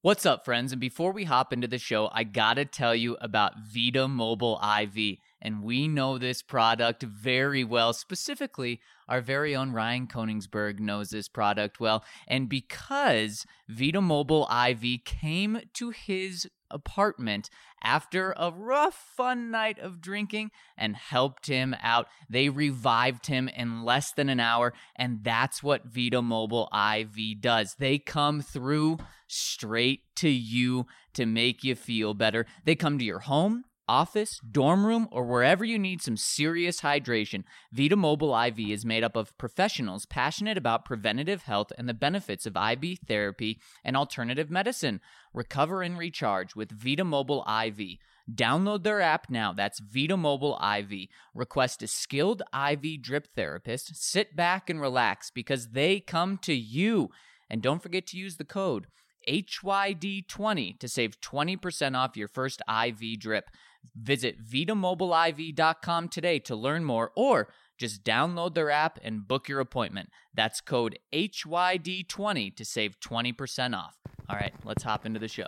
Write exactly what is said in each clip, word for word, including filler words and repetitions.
What's up, friends? And before we hop into the show, I gotta tell you about Vita Mobile I V. And we know this product very well. Specifically, our very own Ryan Koenigsberg knows this product well. And because Vita Mobile I V came to his apartment after a rough, fun night of drinking and helped him out, they revived him in less than an hour. And that's what Vita Mobile I V does. They come through straight to you to make you feel better. They come to your home, office, dorm room, or wherever you need some serious hydration. Vita Mobile I V is made up of professionals passionate about preventative health and the benefits of I V therapy and alternative medicine. Recover and recharge with Vita Mobile I V. Download their app now. That's Vita Mobile I V. Request a skilled I V drip therapist. Sit back and relax because they come to you. And don't forget to use the code H Y D twenty to save twenty percent off your first I V drip. Visit vita mobile I V dot com today to learn more, or just download their app and book your appointment. That's code H Y D twenty to save twenty percent off. All right, let's hop into the show.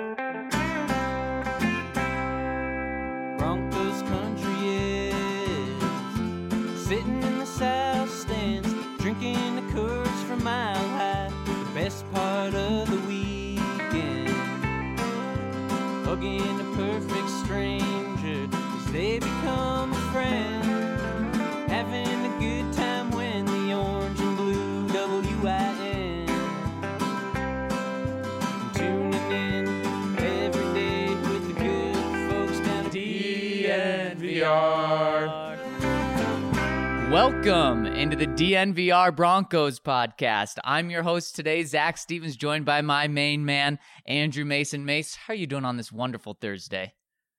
Broncos country is sitting in the south stands, drinking the Coors from Mile High. The best part of the weekend, hugging a perfect stranger as they become a friend, having a good time when the orange and blue W I N, tuning in every day with the good folks down at D N V R. Welcome into the D N V R Broncos podcast. I'm your host today, Zach Stevens, joined by my main man, Andrew Mason. Mace, how are you doing on this wonderful Thursday?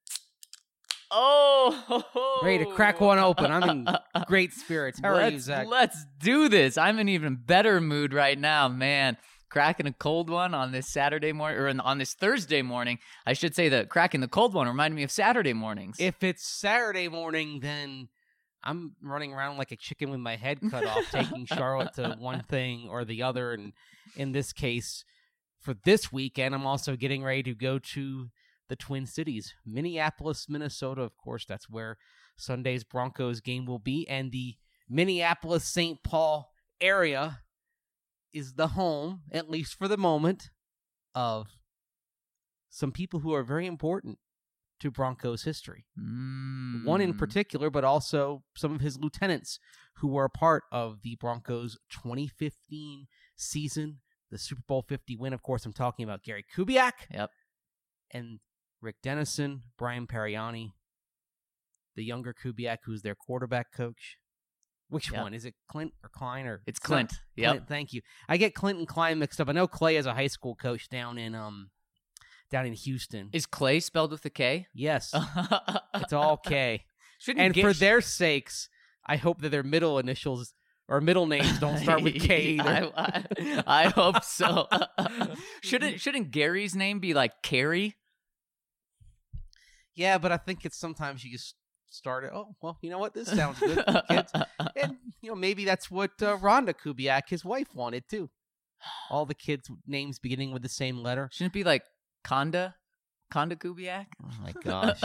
Oh! Ready to crack one open. I'm in great spirits. How are let's, you, Zach? Let's do this. I'm in even better mood right now, man. Cracking a cold one on this Saturday morning, or on this Thursday morning. I should say that cracking the cold one reminded me of Saturday mornings. If it's Saturday morning, then I'm running around like a chicken with my head cut off, taking Charlotte to one thing or the other. And in this case, for this weekend, I'm also getting ready to go to the Twin Cities, Minneapolis, Minnesota. Of course, that's where Sunday's Broncos game will be. And the Minneapolis-Saint Paul area is the home, at least for the moment, of some people who are very important to Broncos history. Mm. One in particular, but also some of his lieutenants who were a part of the Broncos' twenty fifteen season, the Super Bowl fifty win. Of course, I'm talking about Gary Kubiak. Yep. And Rick Dennison, Brian Pariani, the younger Kubiak, who's their quarterback coach. Which yep. one? Is it Clint or Klein? Or It's Clint. Yep. Clint, thank you. I get Clint and Klein mixed up. I know Clay is a high school coach down in um down in Houston. Is Clay spelled with a K? Yes. It's all K. Shouldn't And get, for their sakes, I hope that their middle initials or middle names don't start with K either. I, I, I hope so. shouldn't shouldn't Gary's name be like Carrie? Yeah, but I think it's sometimes you just start it. Oh, well, you know what? This sounds good for the kids. And, you know, maybe that's what uh, Rhonda Kubiak, his wife, wanted too. All the kids' names beginning with the same letter. Shouldn't it be like Konda? Konda Kubiak? Oh, my gosh.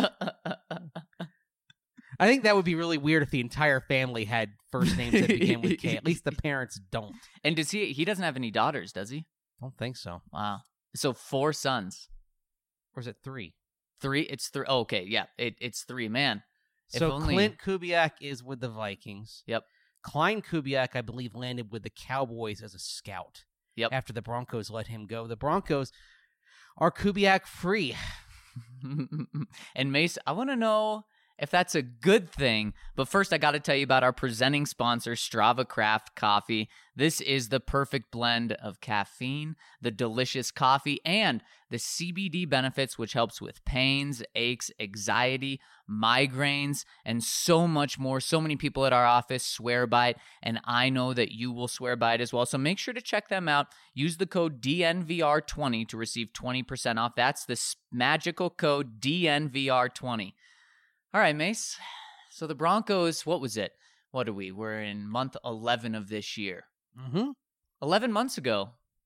I think that would be really weird if the entire family had first names that began with K. At least the parents don't. And does he? He doesn't have any daughters, does he? Don't think so. Wow. So four sons. Or is it three? Three? It's three. Oh, okay, yeah. It, it's three. Man. If So only... Clint Kubiak is with the Vikings. Yep. Klein Kubiak, I believe, landed with the Cowboys as a scout. Yep. After the Broncos let him go. The Broncos are Kubiak free. And Mace, I want to know if that's a good thing. But first, I got to tell you about our presenting sponsor, Strava Craft Coffee. This is the perfect blend of caffeine, the delicious coffee, and the C B D benefits, which helps with pains, aches, anxiety, migraines, and so much more. So many people at our office swear by it, and I know that you will swear by it as well. So make sure to check them out. Use the code D N V R twenty to receive twenty percent off. That's the magical code D N V R twenty. All right, Mace. So the Broncos, what was it? What are we? We're in month eleven of this year. Mm-hmm. eleven months ago,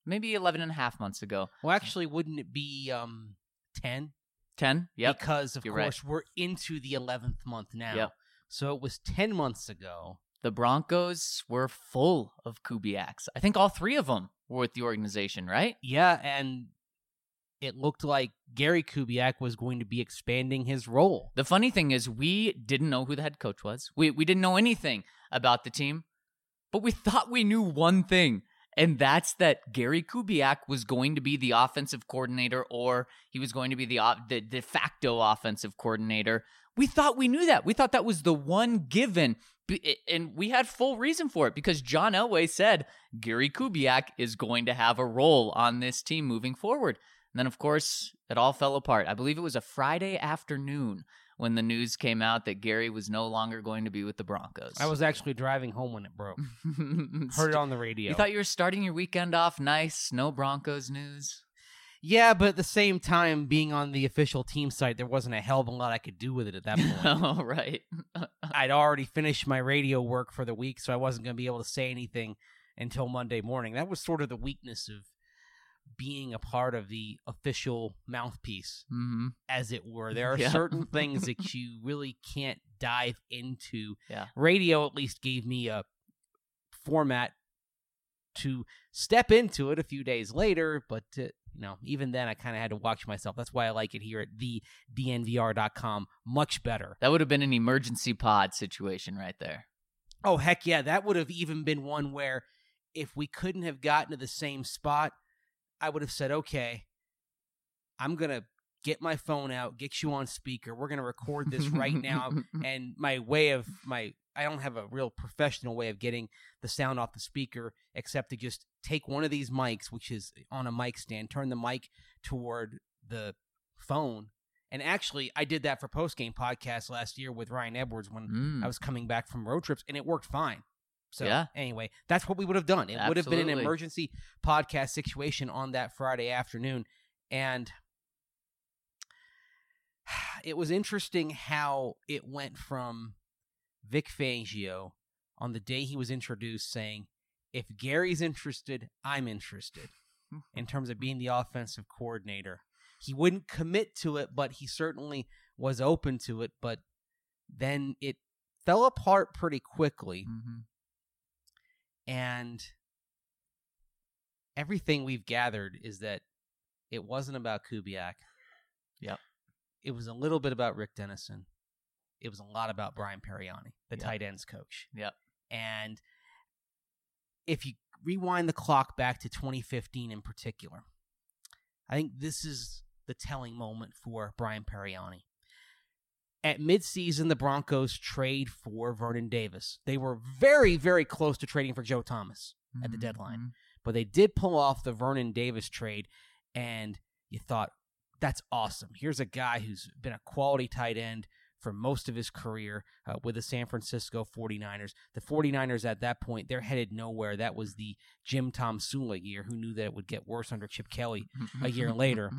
maybe eleven and a half months ago. Well, actually, wouldn't it be um ten? ten? Yep. Because, of You're course, we're into the eleventh month now. Yep. So it was ten months ago. The Broncos were full of Kubiaks. I think all three of them were with the organization, right? Yeah, and it looked like Gary Kubiak was going to be expanding his role. The funny thing is we didn't know who the head coach was. We we didn't know anything about the team, but we thought we knew one thing, and that's that Gary Kubiak was going to be the offensive coordinator, or he was going to be the, the de facto offensive coordinator. We thought we knew that. We thought that was the one given, and we had full reason for it because John Elway said Gary Kubiak is going to have a role on this team moving forward. And then, of course, it all fell apart. I believe it was a Friday afternoon when the news came out that Gary was no longer going to be with the Broncos. I was actually driving home when it broke. Heard it on the radio. You thought you were starting your weekend off nice, no Broncos news? Yeah, but at the same time, being on the official team site, there wasn't a hell of a lot I could do with it at that point. Oh, right. I'd already finished my radio work for the week, so I wasn't going to be able to say anything until Monday morning. That was sort of the weakness of being a part of the official mouthpiece, mm-hmm. as it were. There are yeah. certain things that you really can't dive into. Yeah. Radio at least gave me a format to step into it a few days later, but uh, you know, even then I kind of had to watch myself. That's why I like it here at the D N V R dot com much better. That would have been an emergency pod situation right there. Oh, heck yeah. That would have even been one where if we couldn't have gotten to the same spot, I would have said, okay, I'm going to get my phone out, get you on speaker. We're going to record this right now. And my way of my, I don't have a real professional way of getting the sound off the speaker except to just take one of these mics, which is on a mic stand, turn the mic toward the phone. And actually, I did that for post-game podcast last year with Ryan Edwards when Mm. I was coming back from road trips, and it worked fine. So Yeah. anyway, that's what we would have done. It would have been an Absolutely. emergency podcast situation on that Friday afternoon. And it was interesting how it went from Vic Fangio on the day he was introduced saying, if Gary's interested, I'm interested in terms of being the offensive coordinator. He wouldn't commit to it, but he certainly was open to it. But then it fell apart pretty quickly. Mm-hmm. And everything we've gathered is that it wasn't about Kubiak. Yep. It was a little bit about Rick Dennison. It was a lot about Brian Periani, the Yep. tight ends coach. Yep. And if you rewind the clock back to twenty fifteen in particular, I think this is the telling moment for Brian Periani. At midseason, the Broncos trade for Vernon Davis. They were very, very close to trading for Joe Thomas at the Mhm. deadline. But they did pull off the Vernon Davis trade, and you thought, that's awesome. Here's a guy who's been a quality tight end for most of his career uh, with the San Francisco forty-niners. The forty-niners at that point, they're headed nowhere. That was the Jim Tom Sula year. Who knew that it would get worse under Chip Kelly a year later?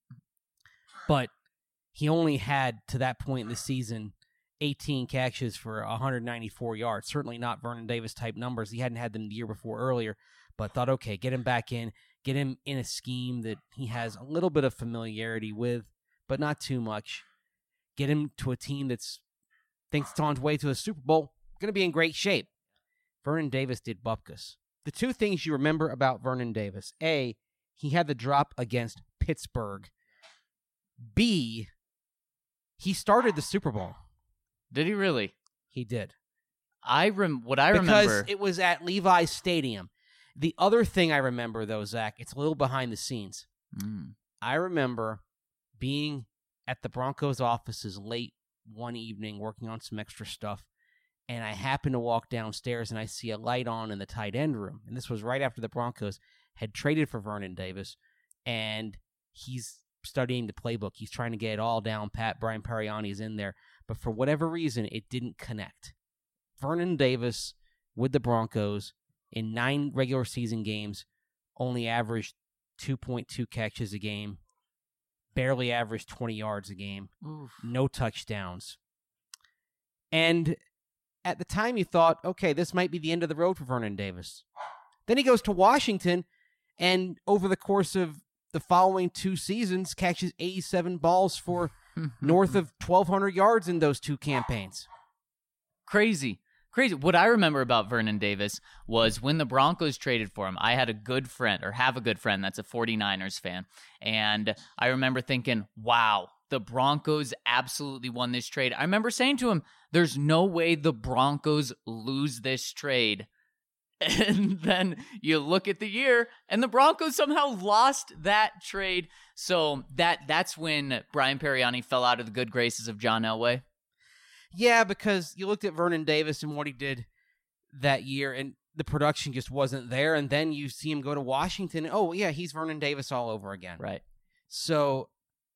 But he only had, to that point in the season, eighteen catches for one hundred ninety-four yards. Certainly not Vernon Davis-type numbers. He hadn't had them the year before earlier, but thought, okay, get him back in, get him in a scheme that he has a little bit of familiarity with, but not too much. Get him to a team that's thinks it's on its way to a Super Bowl, going to be in great shape. Vernon Davis did bupkis. The two things you remember about Vernon Davis: A, he had the drop against Pittsburgh. B, he started the Super Bowl. Did he really? He did. I rem- what I because remember. it was at Levi's Stadium. The other thing I remember, though, Zach, it's a little behind the scenes. Mm. I remember being at the Broncos offices late one evening working on some extra stuff, and I happened to walk downstairs and I see a light on in the tight end room. And this was right after the Broncos had traded for Vernon Davis, and he's studying the playbook. He's trying to get it all down pat. Brian Periani is in there, but for whatever reason, it didn't connect. Vernon Davis with the Broncos in nine regular season games only averaged two point two catches a game, barely averaged twenty yards a game, Oof. no touchdowns. And at the time you thought, okay, this might be the end of the road for Vernon Davis. Then he goes to Washington, and over the course of the following two seasons, catches eighty-seven balls for north of twelve hundred yards in those two campaigns. Crazy. Crazy. What I remember about Vernon Davis was when the Broncos traded for him, I had a good friend, or have a good friend that's a 49ers fan, and I remember thinking, wow, the Broncos absolutely won this trade. I remember saying to him, there's no way the Broncos lose this trade. And then you look at the year, and the Broncos somehow lost that trade. So that that's when Brian Periani fell out of the good graces of John Elway. Yeah, because you looked at Vernon Davis and what he did that year, and the production just wasn't there. And then you see him go to Washington. And, oh, yeah, he's Vernon Davis all over again. Right. So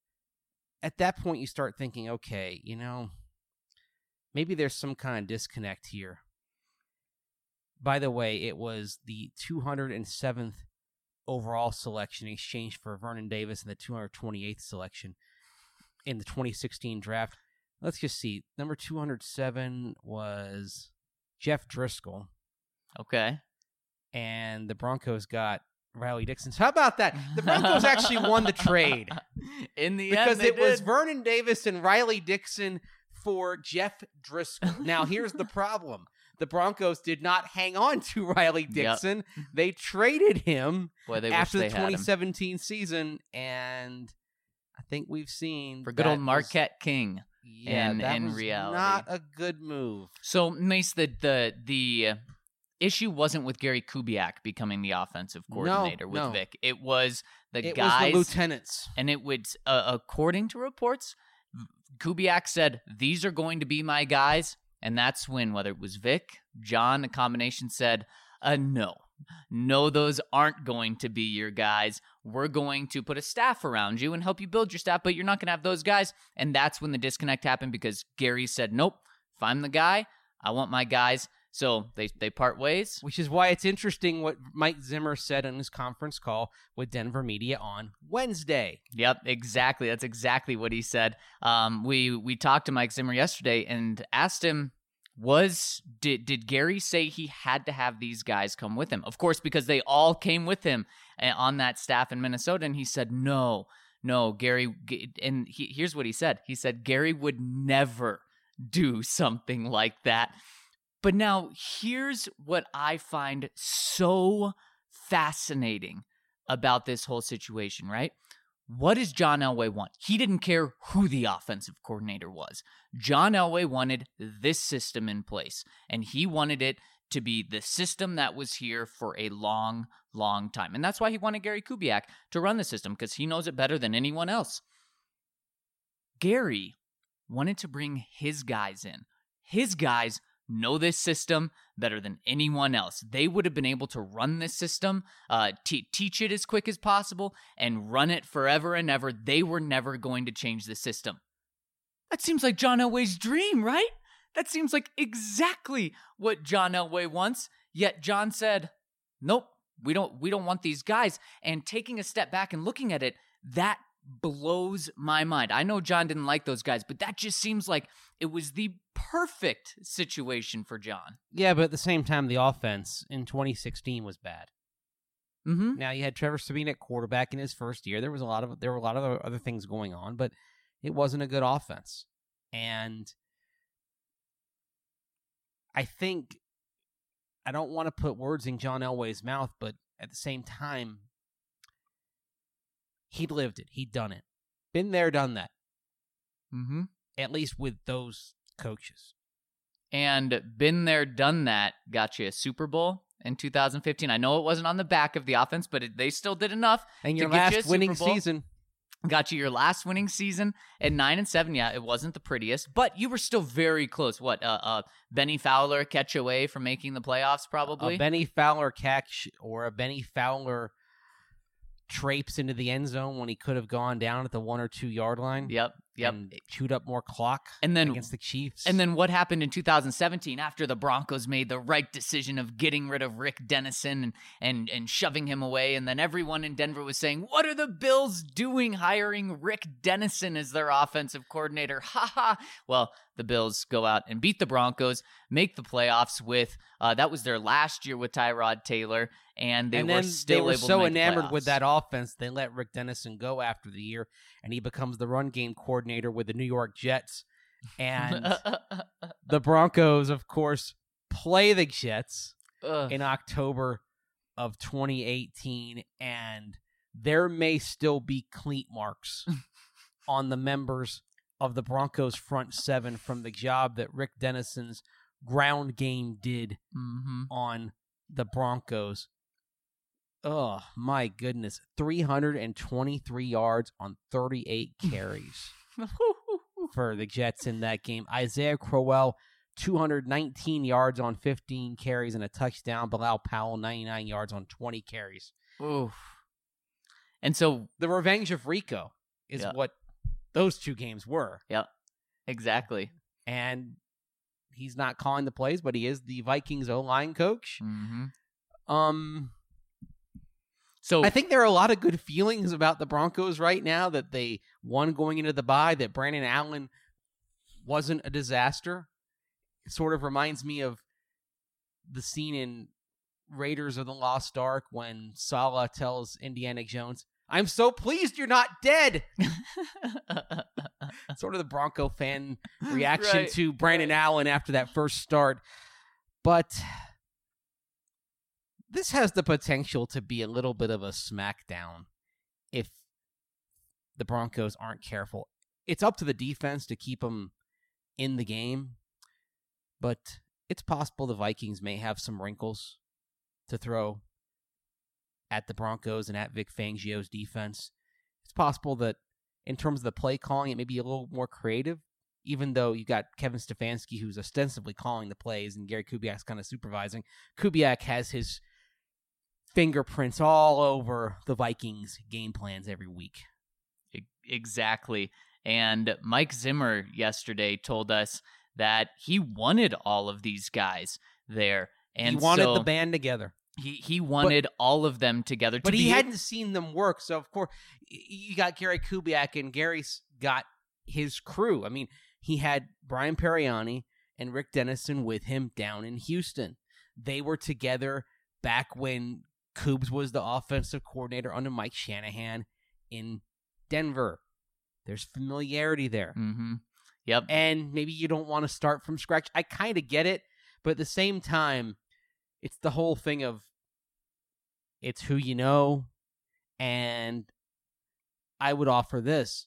at that point, you start thinking, okay, you know, maybe there's some kind of disconnect here. By the way, it was the two hundred seventh overall selection in exchange for Vernon Davis and the two hundred twenty-eighth selection in the twenty sixteen draft. Let's just see. Number two hundred seven was Jeff Driscoll. Okay. And the Broncos got Riley Dixon. So how about that? The Broncos actually won the trade. In the because end, they it was did. Vernon Davis and Riley Dixon for Jeff Driscoll. Now, here's the problem. The Broncos did not hang on to Riley Dixon. Yep. They traded him Boy, they after wish the they twenty seventeen season, and I think we've seen for good old Marquette was, King. Yeah, in, that in was reality. not a good move. So, Mace, the the the issue wasn't with Gary Kubiak becoming the offensive coordinator no, with no. Vic. It was the it guys, was the lieutenants, and it would, uh, according to reports, Kubiak said these are going to be my guys, and that's when whether it was Vic, John, a combination said, uh, no. No, those aren't going to be your guys. We're going to put a staff around you and help you build your staff, but you're not going to have those guys. And that's when the disconnect happened because Gary said, nope, if I'm the guy, I want my guys. So they, they part ways. Which is why it's interesting what Mike Zimmer said on his conference call with Denver Media on Wednesday. Yep, exactly. That's exactly what he said. Um, we, we talked to Mike Zimmer yesterday and asked him, Was did did Gary say he had to have these guys come with him? Of course, because they all came with him on that staff in Minnesota. And he said, no, no, Gary. And he, here's what he said. He said, Gary would never do something like that. But now here's what I find so fascinating about this whole situation, right? What does John Elway want? He didn't care who the offensive coordinator was. John Elway wanted this system in place, and he wanted it to be the system that was here for a long, long time. And that's why he wanted Gary Kubiak to run the system, because he knows it better than anyone else. Gary wanted to bring his guys in. His guys know this system better than anyone else. They would have been able to run this system, uh, t- teach it as quick as possible, and run it forever and ever. They were never going to change the system. That seems like John Elway's dream, right? That seems like exactly what John Elway wants. Yet John said, nope, we don't, we don't want these guys. And taking a step back and looking at it, that blows my mind. I know John didn't like those guys, but that just seems like it was the perfect situation for John. Yeah, but at the same time, the offense in twenty sixteen was bad. Mm-hmm. Now you had Trevor Sabine at quarterback in his first year. There was a lot of there were a lot of other things going on, but it wasn't a good offense. And I think I don't want to put words in John Elway's mouth, but at the same time, he'd lived it. He'd done it. Been there, done that. Mm-hmm. At least with those coaches. And been there, done that, got you a Super Bowl in two thousand fifteen. I know it wasn't on the back of the offense, but it, they still did enough. And your to get you a last winning Super Bowl. season. Got you your last winning season at nine and seven. Yeah, it wasn't the prettiest, but you were still very close. What, uh, uh, Benny Fowler catch away from making the playoffs, probably? A Benny Fowler catch or a Benny Fowler traipse into the end zone when he could have gone down at the one or two yard line. Yep, yep. And chewed up more clock and then, against the Chiefs. And then what happened in two thousand seventeen after the Broncos made the right decision of getting rid of Rick Dennison and, and, and shoving him away, and then everyone in Denver was saying, what are the Bills doing hiring Rick Dennison as their offensive coordinator? Ha ha. Well, the Bills go out and beat the Broncos, make the playoffs with, uh, that was their last year with Tyrod Taylor, and they and were then still they were able so to make enamored playoffs. with that offense, they let Rick Dennison go after the year, and he becomes the run game coordinator with the New York Jets. And the Broncos, of course, play the Jets Ugh. in October of twenty eighteen, and there may still be cleat marks on the members of the Broncos front seven from the job that Rick Dennison's ground game did Mm-hmm. on the Broncos. Oh, my goodness. three hundred twenty-three yards on thirty-eight carries for the Jets in that game. Isaiah Crowell, two hundred nineteen yards on fifteen carries and a touchdown. Bilal Powell, ninety-nine yards on twenty carries. Oof. And so, The revenge of Rico is Yeah. what those two games were. yeah, exactly. And he's not calling the plays, but he is the Vikings O-line coach. Mm-hmm. Um, So I think there are a lot of good feelings about the Broncos right now that they won going into the bye, that Brandon Allen wasn't a disaster. It sort of reminds me of the scene in Raiders of the Lost Ark when Saleh tells Indiana Jones, "I'm so pleased you're not dead." Sort of the Bronco fan reaction Right, to Brandon right. Allen after that first start. But this has the potential to be a little bit of a smackdown if the Broncos aren't careful. It's up to the defense to keep them in the game, but it's possible the Vikings may have some wrinkles to throw at the Broncos and at Vic Fangio's defense. It's possible that in terms of the play calling, it may be a little more creative, even though you got Kevin Stefanski, who's ostensibly calling the plays, and Gary Kubiak's kind of supervising. Kubiak has his fingerprints all over the Vikings' game plans every week. E- Exactly. And Mike Zimmer yesterday told us that he wanted all of these guys there. And he wanted so the band together. He he wanted all of them together. To But he be, hadn't seen them work, so of course, y- you got Gary Kubiak, and Gary's got his crew. I mean, he had Brian Periani and Rick Dennison with him down in Houston. They were together back when Kubes was the offensive coordinator under Mike Shanahan in Denver. There's familiarity there. Mm-hmm. Yep. And maybe you don't want to start from scratch. I kind of get it, but at the same time, it's the whole thing of it's who you know, and I would offer this.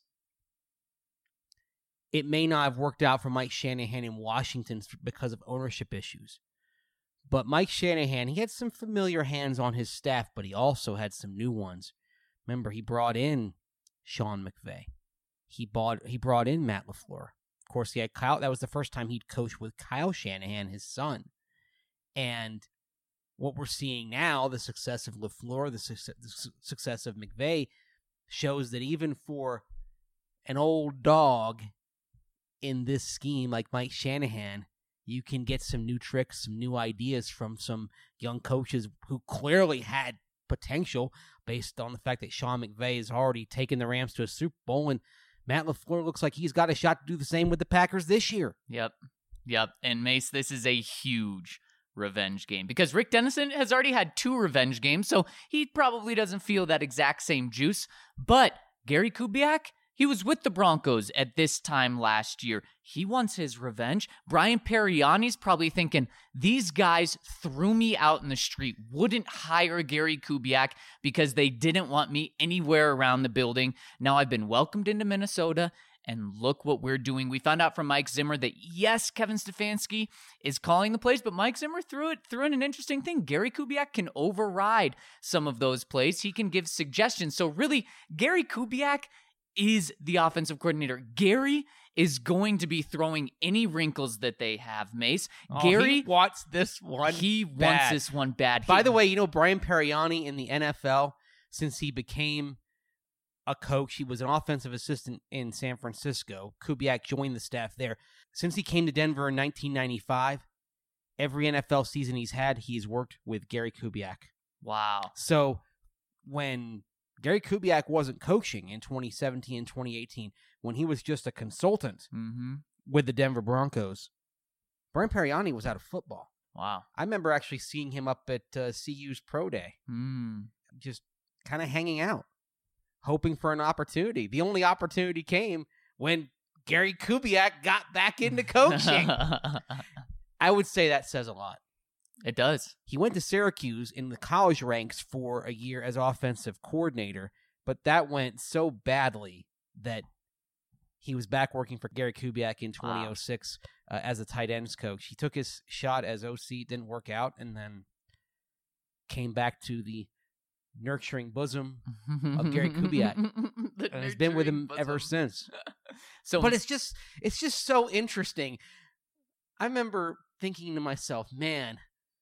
It may not have worked out for Mike Shanahan in Washington because of ownership issues, but Mike Shanahan, he had some familiar hands on his staff, but he also had some new ones. Remember, he brought in Sean McVay. He bought he brought in Matt LaFleur. Of course, he had Kyle. That was the first time he'd coached with Kyle Shanahan, his son. And what we're seeing now, the success of LaFleur, the, su- the su- success of McVay, shows that even for an old dog in this scheme like Mike Shanahan, you can get some new tricks, some new ideas from some young coaches who clearly had potential based on the fact that Sean McVay has already taken the Rams to a Super Bowl, and Matt LaFleur looks like he's got a shot to do the same with the Packers this year. Yep. Yep. And Mace, this is a huge revenge game because Rick Dennison has already had two revenge games, so he probably doesn't feel that exact same juice. But Gary Kubiak, he was with the Broncos at this time last year. He wants his revenge. Brian Periani's probably thinking, these guys threw me out in the street, wouldn't hire Gary Kubiak because they didn't want me anywhere around the building. Now I've been welcomed into Minnesota, and look what we're doing. We found out from Mike Zimmer that, yes, Kevin Stefanski is calling the plays, but Mike Zimmer threw it threw in an interesting thing. Gary Kubiak can override some of those plays. He can give suggestions. So really, Gary Kubiak is the offensive coordinator. Gary is going to be throwing any wrinkles that they have, Mace. Oh, Gary he wants this one. He wants bad. this one bad. By He- the way, you know, Brian Periani in the N F L, since he became a coach, he was an offensive assistant in San Francisco. Kubiak joined the staff there. Since he came to Denver in nineteen ninety-five, every N F L season he's had, he's worked with Gary Kubiak. wow. So when Gary Kubiak wasn't coaching in twenty seventeen and twenty eighteen, when he was just a consultant Mm-hmm. with the Denver Broncos, Brian Periani was out of football. Wow. I remember actually seeing him up at uh, C U's Pro Day, Mm. just kind of hanging out, hoping for an opportunity. The only opportunity came when Gary Kubiak got back into coaching. I would say that says a lot. It does. He went to Syracuse in the college ranks for a year as offensive coordinator, but that went so badly that he was back working for Gary Kubiak in twenty oh six wow. uh, as a tight ends coach. He took his shot as O C, didn't work out, and then came back to the nurturing bosom of Gary Kubiak. And has been with him bosom. ever since. So, but it's just it's just so interesting. I remember thinking to myself, man,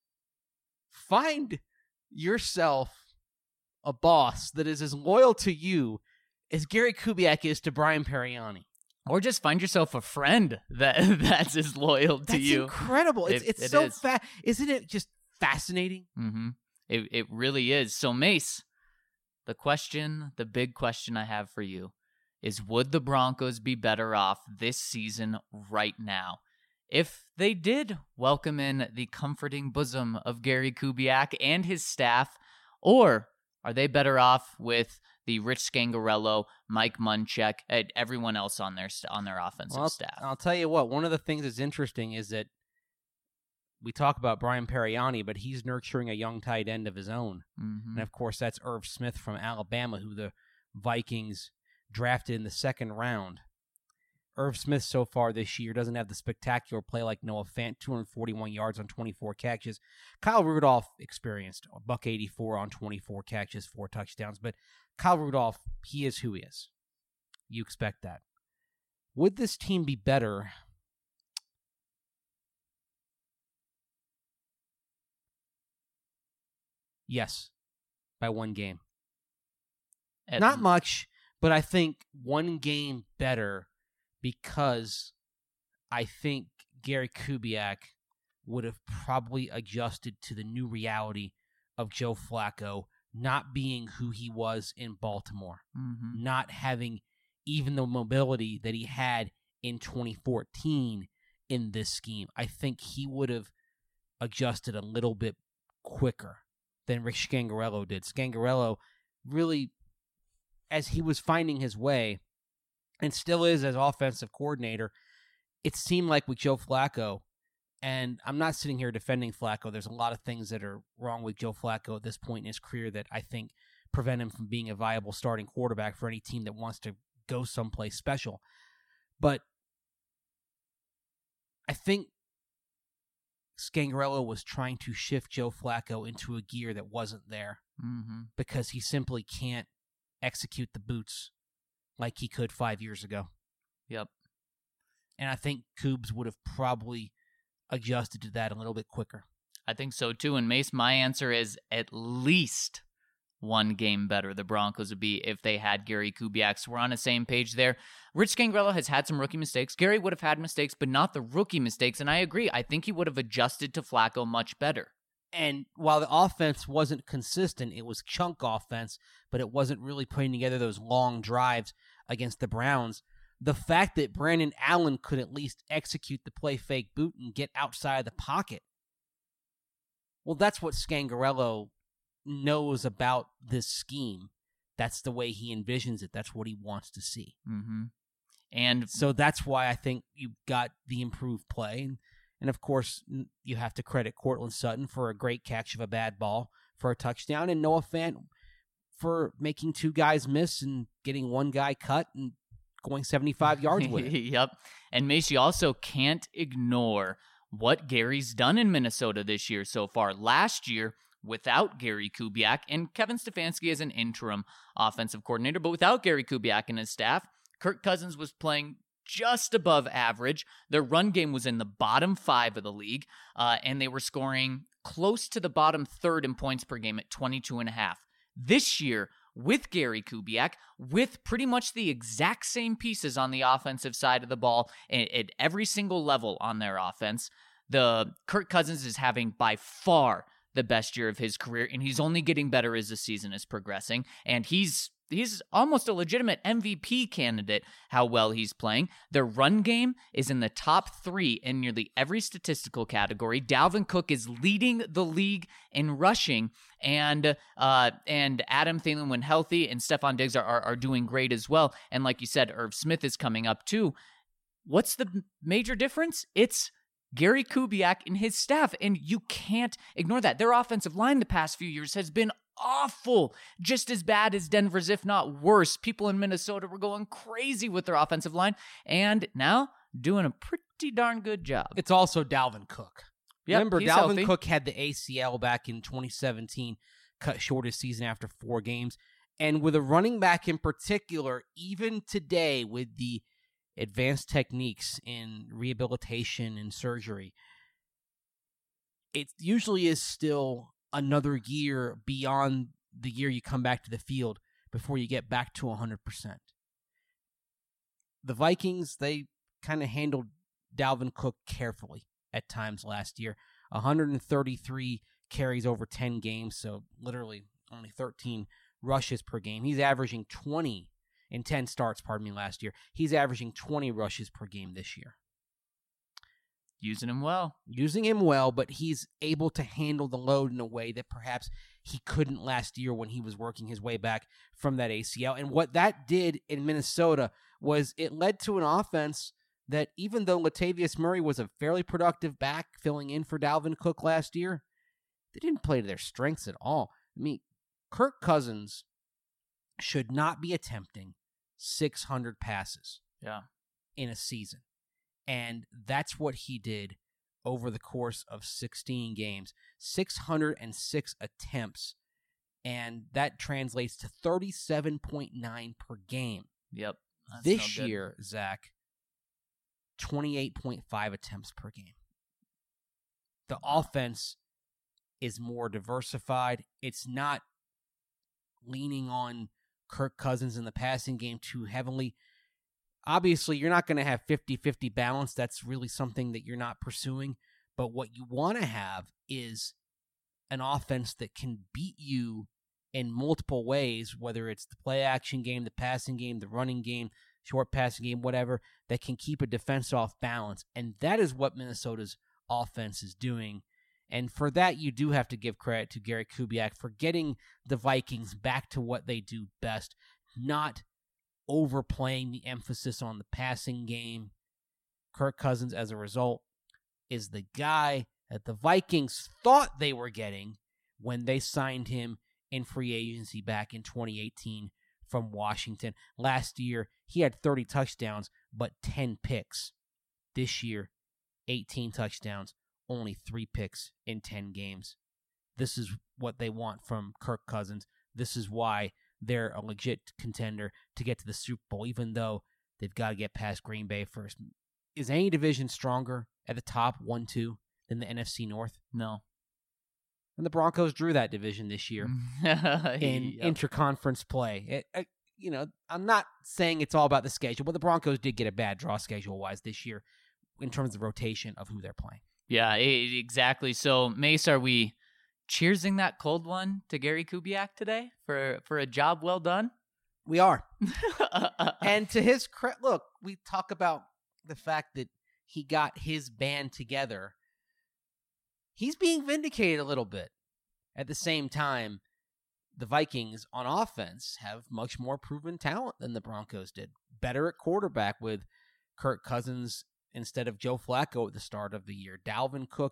find yourself a boss that is as loyal to you as Gary Kubiak is to Brian Periani. Or just find yourself a friend that that's as loyal to that's you. That's incredible. It's it, it's it so is. fa- Isn't it just fascinating? Mm-hmm. It it really is. So, Mace, the question, the big question I have for you is, would the Broncos be better off this season right now if they did welcome in the comforting bosom of Gary Kubiak and his staff, or are they better off with the Rich Scangarello, Mike Munchak, and everyone else on their on their offensive well, staff? I'll tell you what, one of the things that's interesting is that we talk about Brian Periani, but he's nurturing a young tight end of his own. Mm-hmm. And, of course, that's Irv Smith from Alabama, who the Vikings drafted in the second round. Irv Smith so far this year doesn't have the spectacular play like Noah Fant, two hundred forty-one yards on twenty-four catches. Kyle Rudolph experienced a buck eighty-four on twenty-four catches, four touchdowns. But Kyle Rudolph, he is who he is. You expect that. Would this team be better? Yes, by one game. At Not much, but I think one game better because I think Gary Kubiak would have probably adjusted to the new reality of Joe Flacco not being who he was in Baltimore, mm-hmm. not having even the mobility that he had in twenty fourteen in this scheme. I think he would have adjusted a little bit quicker than Rick Scangarello did. Scangarello really, as he was finding his way, and still is as offensive coordinator, it seemed like with Joe Flacco, and I'm not sitting here defending Flacco. There's a lot of things that are wrong with Joe Flacco at this point in his career that I think prevent him from being a viable starting quarterback for any team that wants to go someplace special. But I think Scangarello was trying to shift Joe Flacco into a gear that wasn't there mm-hmm. because he simply can't execute the boots like he could five years ago. Yep. And I think Coobs would have probably adjusted to that a little bit quicker. I think so too. And Mace, my answer is at least one game better the Broncos would be if they had Gary Kubiak. So we're on the same page there. Rich Scangarello has had some rookie mistakes. Gary would have had mistakes, but not the rookie mistakes. And I agree. I think he would have adjusted to Flacco much better. And while the offense wasn't consistent, it was chunk offense, but it wasn't really putting together those long drives against the Browns. The fact that Brandon Allen could at least execute the play fake boot and get outside the pocket, well, that's what Scangarello knows about this scheme. That's the way he envisions it. That's what he wants to see. Mm-hmm. And so that's why I think you've got the improved play. And, and of course, you have to credit Cortland Sutton for a great catch of a bad ball for a touchdown, and Noah Fant for making two guys miss and getting one guy cut and going seventy-five yards with it. Yep. And Mace, you also can't ignore what Gary's done in Minnesota this year so far. Last year, without Gary Kubiak and Kevin Stefanski as an interim offensive coordinator, but without Gary Kubiak and his staff, Kirk Cousins was playing just above average. Their run game was in the bottom five of the league, uh, and they were scoring close to the bottom third in points per game at twenty-two and a half. This year, with Gary Kubiak, with pretty much the exact same pieces on the offensive side of the ball at, at every single level on their offense, the Kirk Cousins is having by far the best year of his career, and he's only getting better as the season is progressing, and he's he's almost a legitimate M V P candidate, how well he's playing. Their run game is in the top three in nearly every statistical category. Dalvin Cook is leading the league in rushing, and uh, and Adam Thielen, when healthy, and Stephon Diggs are, are, are doing great as well. And like you said, Irv Smith is coming up too. What's the major difference? It's Gary Kubiak and his staff, and you can't ignore that. Their offensive line the past few years has been awful, just as bad as Denver's, if not worse. People in Minnesota were going crazy with their offensive line, and now doing a pretty darn good job. It's also Dalvin Cook. Yep, Remember, he's Dalvin healthy. Cook had the A C L back in twenty seventeen, cut short his season after four games. And with a running back in particular, even today with the advanced techniques in rehabilitation and surgery, it usually is still another year beyond the year you come back to the field before you get back to one hundred percent. The Vikings, they kind of handled Dalvin Cook carefully at times last year. one hundred thirty-three carries over ten games, so literally only thirteen rushes per game. He's averaging twenty in ten starts, pardon me, last year. He's averaging twenty rushes per game this year. Using him well. Using him well, but he's able to handle the load in a way that perhaps he couldn't last year when he was working his way back from that A C L. And what that did in Minnesota was it led to an offense that, even though Latavius Murray was a fairly productive back filling in for Dalvin Cook last year, they didn't play to their strengths at all. I mean, Kirk Cousins should not be attempting six hundred passes Yeah. in a season. And that's what he did over the course of sixteen games. six hundred six attempts. And that translates to thirty-seven point nine per game. Yep. That's This no good. year, Zach, twenty-eight point five attempts per game. The offense is more diversified. It's not leaning on Kirk Cousins in the passing game too heavily. Obviously, you're not going to have fifty-fifty balance. That's really something that you're not pursuing. But what you want to have is an offense that can beat you in multiple ways, whether it's the play action game, the passing game, the running game, short passing game, whatever, that can keep a defense off balance. And that is what Minnesota's offense is doing. And for that, you do have to give credit to Gary Kubiak for getting the Vikings back to what they do best, not overplaying the emphasis on the passing game. Kirk Cousins, as a result, is the guy that the Vikings thought they were getting when they signed him in free agency back in twenty eighteen from Washington. Last year, he had thirty touchdowns, but ten picks. This year, eighteen touchdowns, only three picks in ten games. This is what they want from Kirk Cousins. This is why they're a legit contender to get to the Super Bowl, even though they've got to get past Green Bay first. Is any division stronger at the top, one two, than the N F C North? No. And the Broncos drew that division this year in Yep. interconference play. It, it, you know, I'm not saying it's all about the schedule, but the Broncos did get a bad draw schedule-wise this year in terms of rotation of who they're playing. Yeah, e- exactly. So, Mace, are we cheersing that cold one to Gary Kubiak today for, for a job well done? We are. And to his credit, look, we talk about the fact that he got his band together. He's being vindicated a little bit. At the same time, the Vikings on offense have much more proven talent than the Broncos did. Better at quarterback with Kirk Cousins instead of Joe Flacco at the start of the year. Dalvin Cook,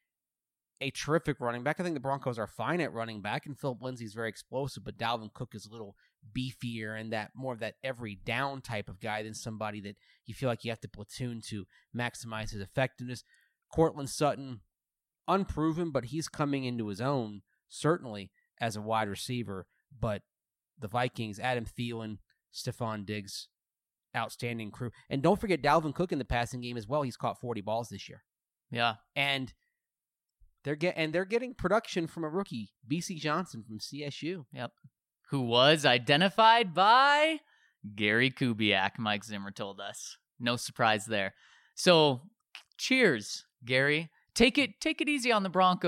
a terrific running back. I think the Broncos are fine at running back, and Philip Lindsay's very explosive, but Dalvin Cook is a little beefier and that more of that every down type of guy than somebody that you feel like you have to platoon to maximize his effectiveness. Cortland Sutton, unproven, but he's coming into his own, certainly, as a wide receiver. But the Vikings, Adam Thielen, Stephon Diggs, outstanding crew. And don't forget Dalvin Cook in the passing game as well. He's caught forty balls this year. Yeah. And they're get and they're getting production from a rookie, B C Johnson from C S U. Yep. Who was identified by Gary Kubiak, Mike Zimmer told us. No surprise there. So, cheers, Gary. Take it take it easy on the Broncos.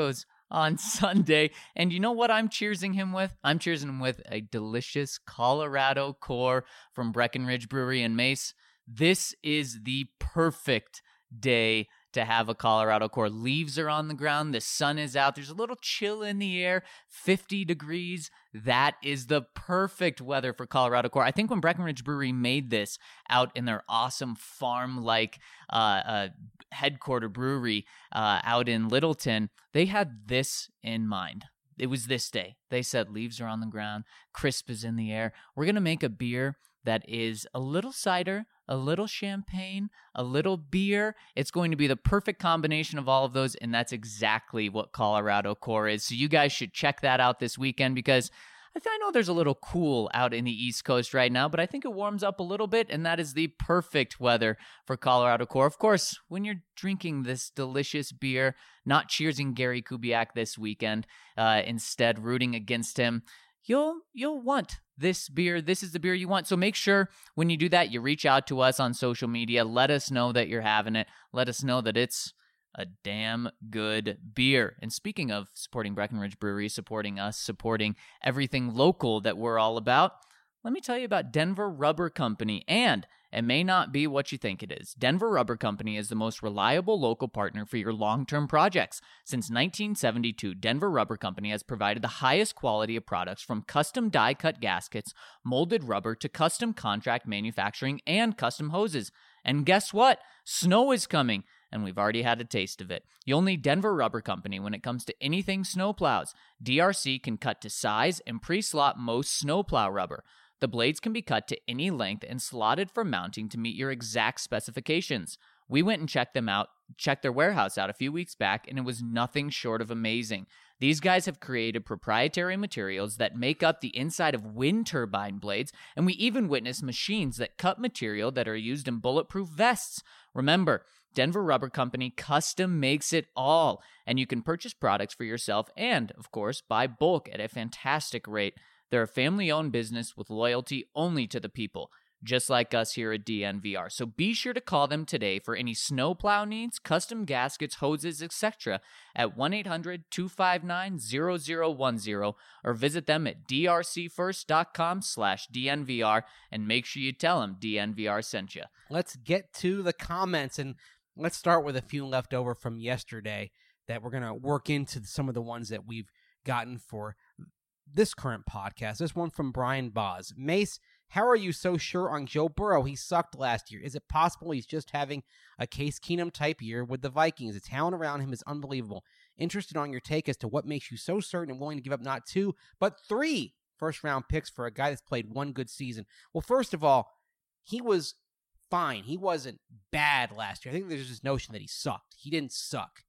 on Sunday. And you know what I'm cheersing him with? I'm cheersing him with a delicious Colorado Core from Breckenridge Brewery in Mace. This is the perfect day to have a Colorado Core. Leaves are on the ground. The sun is out. There's a little chill in the air, fifty degrees. That is the perfect weather for Colorado Core. I think when Breckenridge Brewery made this out in their awesome farm-like uh, uh, headquarter brewery uh, out in Littleton, they had this in mind. It was this day. They said leaves are on the ground, crisp is in the air. We're going to make a beer that is a little cider, a little champagne, a little beer. It's going to be the perfect combination of all of those, and that's exactly what Colorado Core is. So you guys should check that out this weekend, because I, th- I know there's a little cool out in the East Coast right now, but I think it warms up a little bit, and that is the perfect weather for Colorado Core. Of course, when you're drinking this delicious beer, not cheersing Gary Kubiak this weekend, uh, instead rooting against him, you'll you'll want this beer. This is the beer you want. So make sure when you do that, you reach out to us on social media. Let us know that you're having it. Let us know that it's a damn good beer. And speaking of supporting Breckenridge Brewery, supporting us, supporting everything local that we're all about, let me tell you about Denver Rubber Company. And it may not be what you think it is. Denver Rubber Company is the most reliable local partner for your long-term projects. Since nineteen seventy-two, Denver Rubber Company has provided the highest quality of products, from custom die-cut gaskets, molded rubber, to custom contract manufacturing and custom hoses. And guess what? Snow is coming, and we've already had a taste of it. You'll need Denver Rubber Company when it comes to anything snowplows. D R C can cut to size and pre-slot most snowplow rubber. The blades can be cut to any length and slotted for mounting to meet your exact specifications. We went and checked them out, checked their warehouse out a few weeks back, and it was nothing short of amazing. These guys have created proprietary materials that make up the inside of wind turbine blades, and we even witnessed machines that cut material that are used in bulletproof vests. Remember, Denver Rubber Company custom makes it all, and you can purchase products for yourself and, of course, buy bulk at a fantastic rate. They're a family-owned business with loyalty only to the people, just like us here at D N V R. So be sure to call them today for any snowplow needs, custom gaskets, hoses, et cetera at one eight hundred two five nine zero zero one zero, or visit them at d r c first dot com slash D N V R, and make sure you tell them D N V R sent you. Let's get to the comments, and let's start with a few left over from yesterday that we're going to work into some of the ones that we've gotten for this current podcast. This one from Brian Boz. Mace, how are you so sure on Joe Burrow? He sucked last year. Is it possible he's just having a Case Keenum type year with the Vikings? The talent around him is unbelievable. Interested on your take as to what makes you so certain and willing to give up not two, but three first round picks for a guy that's played one good season. Well, first of all, he was fine. He wasn't bad last year. I think there's this notion that he sucked. He didn't suck.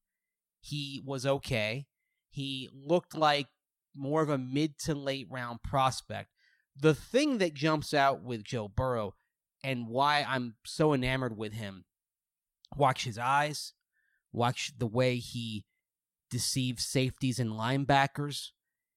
He was okay. He looked like more of a mid to late round prospect. The thing that jumps out with Joe Burrow and why I'm so enamored with him, watch his eyes, watch the way he deceives safeties and linebackers.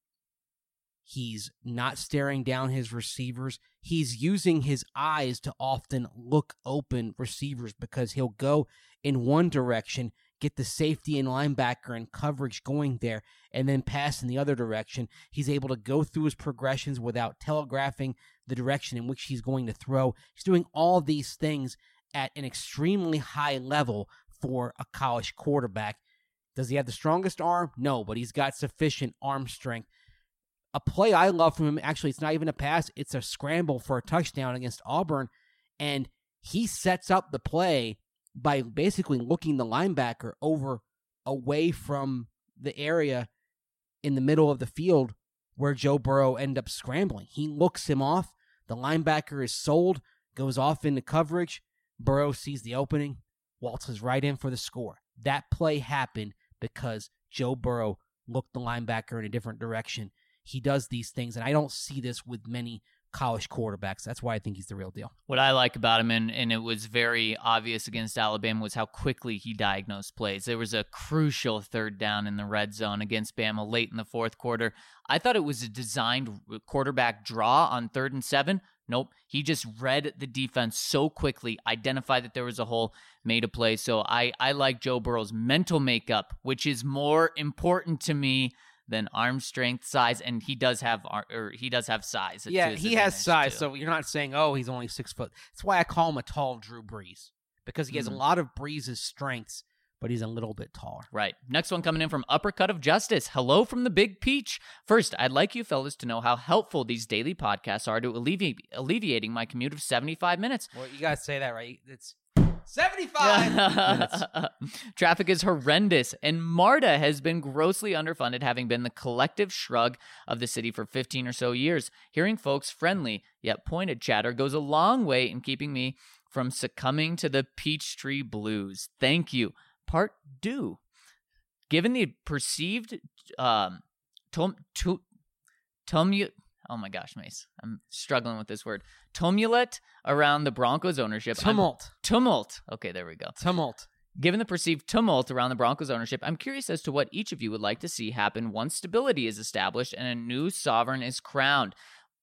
He's not staring down his receivers. He's using his eyes to often look open receivers, because he'll go in one direction, get the safety and linebacker and coverage going there, and then pass in the other direction. He's able to go through his progressions without telegraphing the direction in which he's going to throw. He's doing all these things at an extremely high level for a college quarterback. Does he have the strongest arm? No, but he's got sufficient arm strength. A play I love from him, actually, it's not even a pass. It's a scramble for a touchdown against Auburn, and he sets up the play by basically looking the linebacker over away from the area in the middle of the field where Joe Burrow ended up scrambling. He looks him off. The linebacker is sold, goes off into coverage. Burrow sees the opening, waltzes right in for the score. That play happened because Joe Burrow looked the linebacker in a different direction. He does these things, and I don't see this with many college quarterbacks. That's why I think he's the real deal. What I like about him, and, and it was very obvious against Alabama, was how quickly he diagnosed plays. There was a crucial third down in the red zone against Bama late in the fourth quarter. I thought it was a designed quarterback draw on third and seven. Nope. He just read the defense so quickly, identified that there was a hole, made a play. So I, I like Joe Burrow's mental makeup, which is more important to me than arm strength, size, and he does have or he does have size. Yeah, he has size, too. so you're not saying, oh, he's only six foot. That's why I call him a tall Drew Brees, because he has Mm-hmm. a lot of Brees' strengths, but he's a little bit taller. Right. Next one coming in from Uppercut of Justice. Hello from the Big Peach. First, I'd like you fellas to know how helpful these daily podcasts are to alleviate alleviating my commute of seventy-five minutes. Well, you gotta say that right. It's seventy-five minutes. Traffic is horrendous, and MARTA has been grossly underfunded, having been the collective shrug of the city for fifteen or so years. Hearing folks' friendly yet pointed chatter goes a long way in keeping me from succumbing to the Peachtree blues. Thank you. Part two. Given the perceived um, tum, tu, tumu- oh my gosh, Mace, I'm struggling with this word. Tumult around the Broncos ownership. I'm- Tumult. tumult. Okay, there we go. Tumult. Given the perceived tumult around the Broncos ownership, I'm curious as to what each of you would like to see happen once stability is established and a new sovereign is crowned.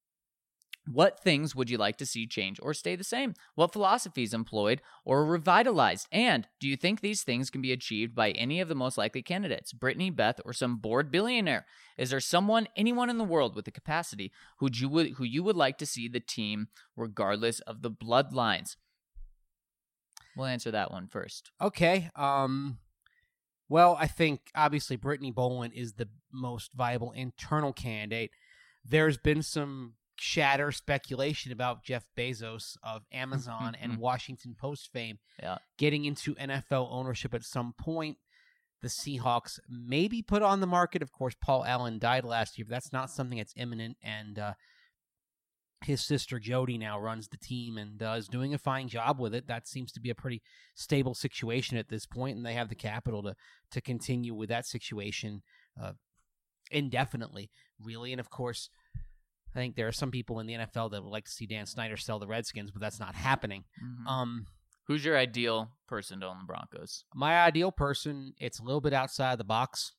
What things would you like to see change or stay the same? What philosophies employed or revitalized? And do you think these things can be achieved by any of the most likely candidates, Brittany, Beth, or some bored billionaire? Is there someone, anyone in the world with the capacity who you would who you would like to see the team regardless of the bloodlines? We'll answer that one first. Okay. Um. Well, I think obviously Brittany Boland is the most viable internal candidate. There's been some chatter, speculation about Jeff Bezos of Amazon and Washington Post fame Yeah. getting into N F L ownership at some point. The Seahawks may be put on the market. Of course, Paul Allen died last year, but that's not something that's imminent. And uh, his sister Jody now runs the team and uh, is doing a fine job with it. That seems to be a pretty stable situation at this point, and they have the capital to to continue with that situation uh, indefinitely, really. And of course, I think there are some people in the N F L that would like to see Dan Snyder sell the Redskins, but that's not happening. Mhm. Um, Who's your ideal person to own the Broncos? my ideal person, it's a little bit outside the box.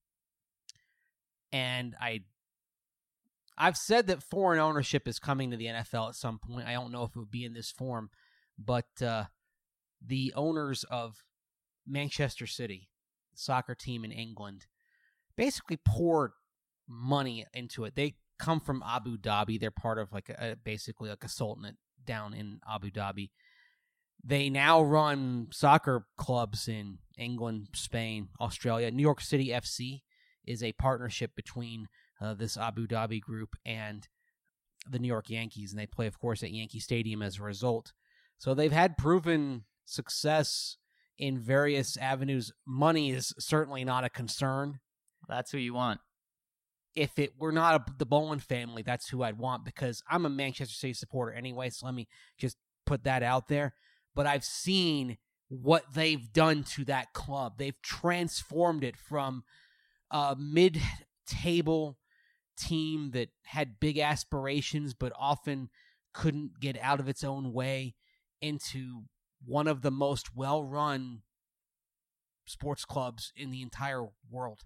And I, I've said that foreign ownership is coming to the N F L at some point. I don't know if it would be in this form, but uh, the owners of Manchester City, the soccer team in England, basically poured money into it. They come from Abu Dhabi. They're part of like a, basically like a sultanate down in Abu Dhabi. They now run soccer clubs in England, Spain, Australia. New York City F C is a partnership between uh, this Abu Dhabi group and the New York Yankees, and they play, of course, at Yankee Stadium as a result. So they've had proven success in various avenues. Money is certainly not a concern. That's who you want. If it were not a, the Bowen family, that's who I'd want, because I'm a Manchester City supporter anyway, so let me just put that out there. But I've seen what they've done to that club. They've transformed it from a mid-table team that had big aspirations but often couldn't get out of its own way into one of the most well-run sports clubs in the entire world.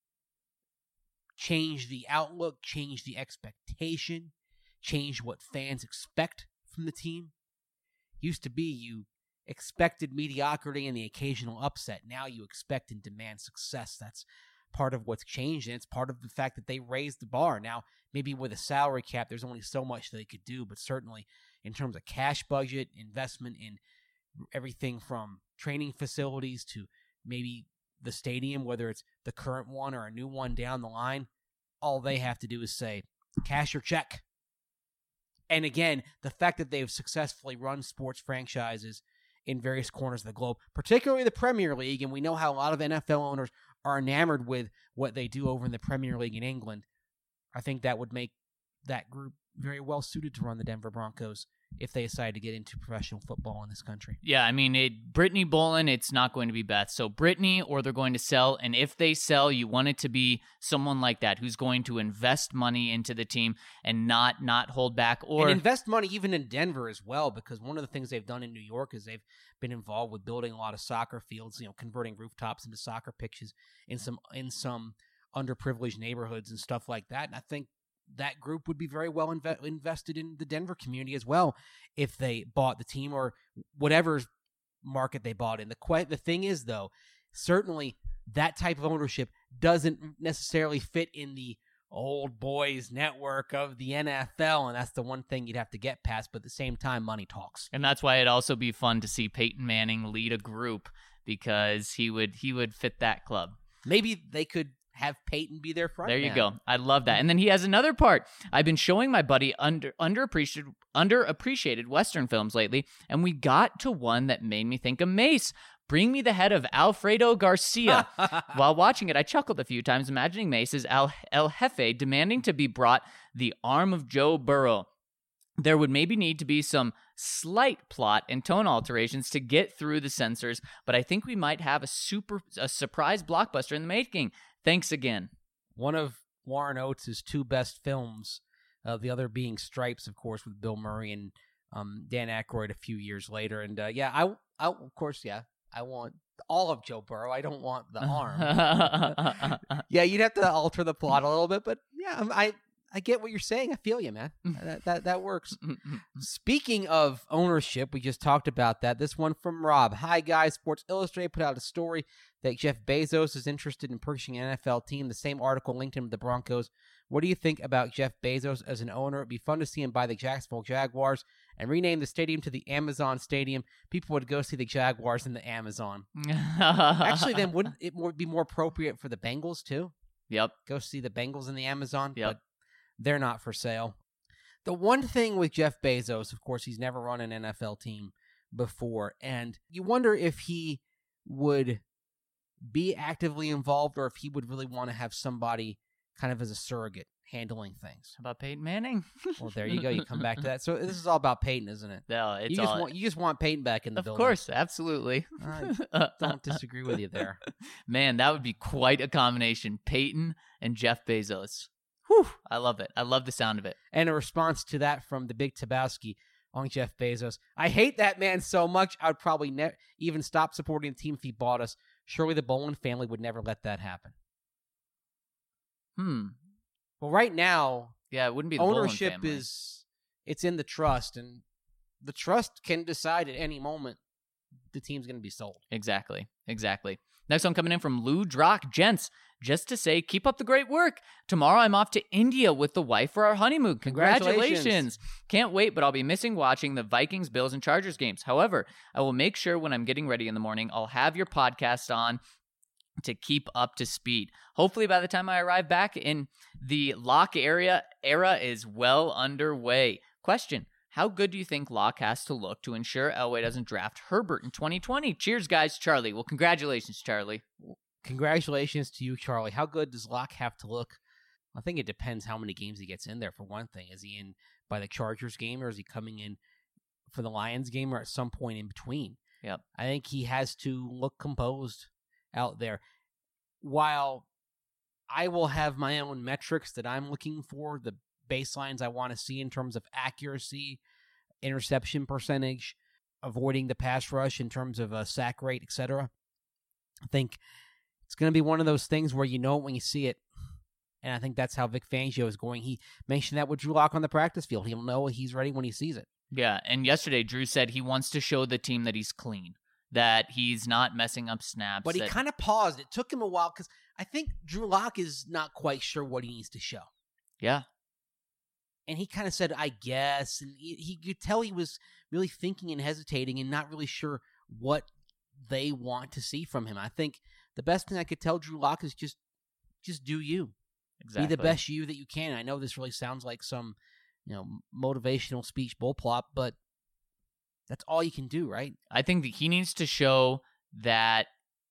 Change the outlook, change the expectation, change what fans expect from the team. Used to be you expected mediocrity and the occasional upset. Now you expect and demand success. That's part of what's changed, and it's part of the fact that they raised the bar. Now, maybe with a salary cap, there's only so much they could do, but certainly in terms of cash budget, investment in everything from training facilities to maybe the stadium, whether it's the current one or a new one down the line, all they have to do is say, cash your check. And again, the fact that they've successfully run sports franchises in various corners of the globe, particularly the Premier League, and we know how a lot of N F L owners are enamored with what they do over in the Premier League in England, I think that would make that group very well suited to run the Denver Broncos if they decide to get into professional football in this country. Yeah, I mean, it, Brittany Boland, it's not going to be Beth. So Brittany, or they're going to sell. And if they sell, you want it to be someone like that who's going to invest money into the team and not not hold back. Or and invest money even in Denver as well, because one of the things they've done in New York is they've been involved with building a lot of soccer fields, you know, converting rooftops into soccer pitches in some in some underprivileged neighborhoods and stuff like that. And I think that group would be very well inve- invested in the Denver community as well if they bought the team or whatever market they bought in. The que- the thing is, though, certainly that type of ownership doesn't necessarily fit in the old boys network of the N F L, and that's the one thing you'd have to get past. But at the same time, money talks. And that's why it'd also be fun to see Peyton Manning lead a group, because he would he would fit that club. Maybe they could have Peyton be their front There you man. go. I love that. And then he has another part. I've been showing my buddy under underappreciated underappreciated Western films lately, and we got to one that made me think of Mace. Bring me the head of Alfredo Garcia. While watching it, I chuckled a few times, imagining Mace as El, El Jefe demanding to be brought the arm of Joe Burrow. There would maybe need to be some slight plot and tone alterations to get through the censors, but I think we might have a super a surprise blockbuster in the making. Thanks again. One of Warren Oates' two best films, uh, the other being Stripes, of course, with Bill Murray and um, Dan Aykroyd a few years later. And uh, yeah, I, I, of course, yeah, I want all of Joe Burrow. I don't want the arm. Yeah, you'd have to alter the plot a little bit, but yeah, I, I get what you're saying. I feel you, man. That that, that works. Speaking of ownership, we just talked about that. This one from Rob. Hi, guys. Sports Illustrated put out a story that Jeff Bezos is interested in purchasing an N F L team. The same article linked him to the Broncos. What do you think about Jeff Bezos as an owner? It'd be fun to see him buy the Jacksonville Jaguars and rename the stadium to the Amazon Stadium. People would go see the Jaguars in the Amazon. Actually, then wouldn't it more, be more appropriate for the Bengals, too? Yep. Go see the Bengals in the Amazon? Yep. But they're not for sale. The one thing with Jeff Bezos, of course, he's never run an N F L team before, and you wonder if he would be actively involved or if he would really want to have somebody kind of as a surrogate handling things. How about Peyton Manning? Well, there you go. You come back to that. So this is all about Peyton, isn't it? No, it's you just all... want you just want Peyton back in the of building. Of course, absolutely. I don't disagree with you there. Man, that would be quite a combination. Peyton and Jeff Bezos. Whew, I love it. I love the sound of it. And a response to that from the Big Tabowski on Jeff Bezos. I hate that man so much, I would probably ne- even stop supporting the team if he bought us. Surely the Bowen family would never let that happen. Hmm. Well, right now, yeah, it wouldn't be the ownership Bowen family. is, it's in the trust, and the trust can decide at any moment the team's going to be sold. Exactly. Exactly. Next one coming in from Lou Drock. Gents, just to say, keep up the great work. Tomorrow I'm off to India with the wife for our honeymoon. Congratulations. Congratulations. Can't wait, but I'll be missing watching the Vikings, Bills, and Chargers games. However, I will make sure when I'm getting ready in the morning, I'll have your podcast on to keep up to speed. Hopefully by the time I arrive back in the Lock area, era is well underway. Question. How good do you think Locke has to look to ensure Elway doesn't draft Herbert in twenty twenty? Cheers, guys. Charlie. Well, congratulations, Charlie. Congratulations to you, Charlie. How good does Locke have to look? I think it depends how many games he gets in there, for one thing. Is he in by the Chargers game, or is he coming in for the Lions game, or at some point in between? Yep. I think he has to look composed out there. While I will have my own metrics that I'm looking for, the baselines I want to see in terms of accuracy, interception percentage, avoiding the pass rush in terms of uh, sack rate, et cetera. I think it's going to be one of those things where you know it when you see it. And I think that's how Vic Fangio is going. He mentioned that with Drew Lock on the practice field. He'll know he's ready when he sees it. Yeah, and yesterday Drew said he wants to show the team that he's clean, that he's not messing up snaps. But he that... kind of paused. It took him a while because I think Drew Lock is not quite sure what he needs to show. Yeah. And he kind of said, I guess. And he, he could tell he was really thinking and hesitating and not really sure what they want to see from him. I think the best thing I could tell Drew Lock is just just do you. Exactly. Be the best you that you can. I know this really sounds like some, you know, motivational speech bullplop, but that's all you can do, right? I think that he needs to show that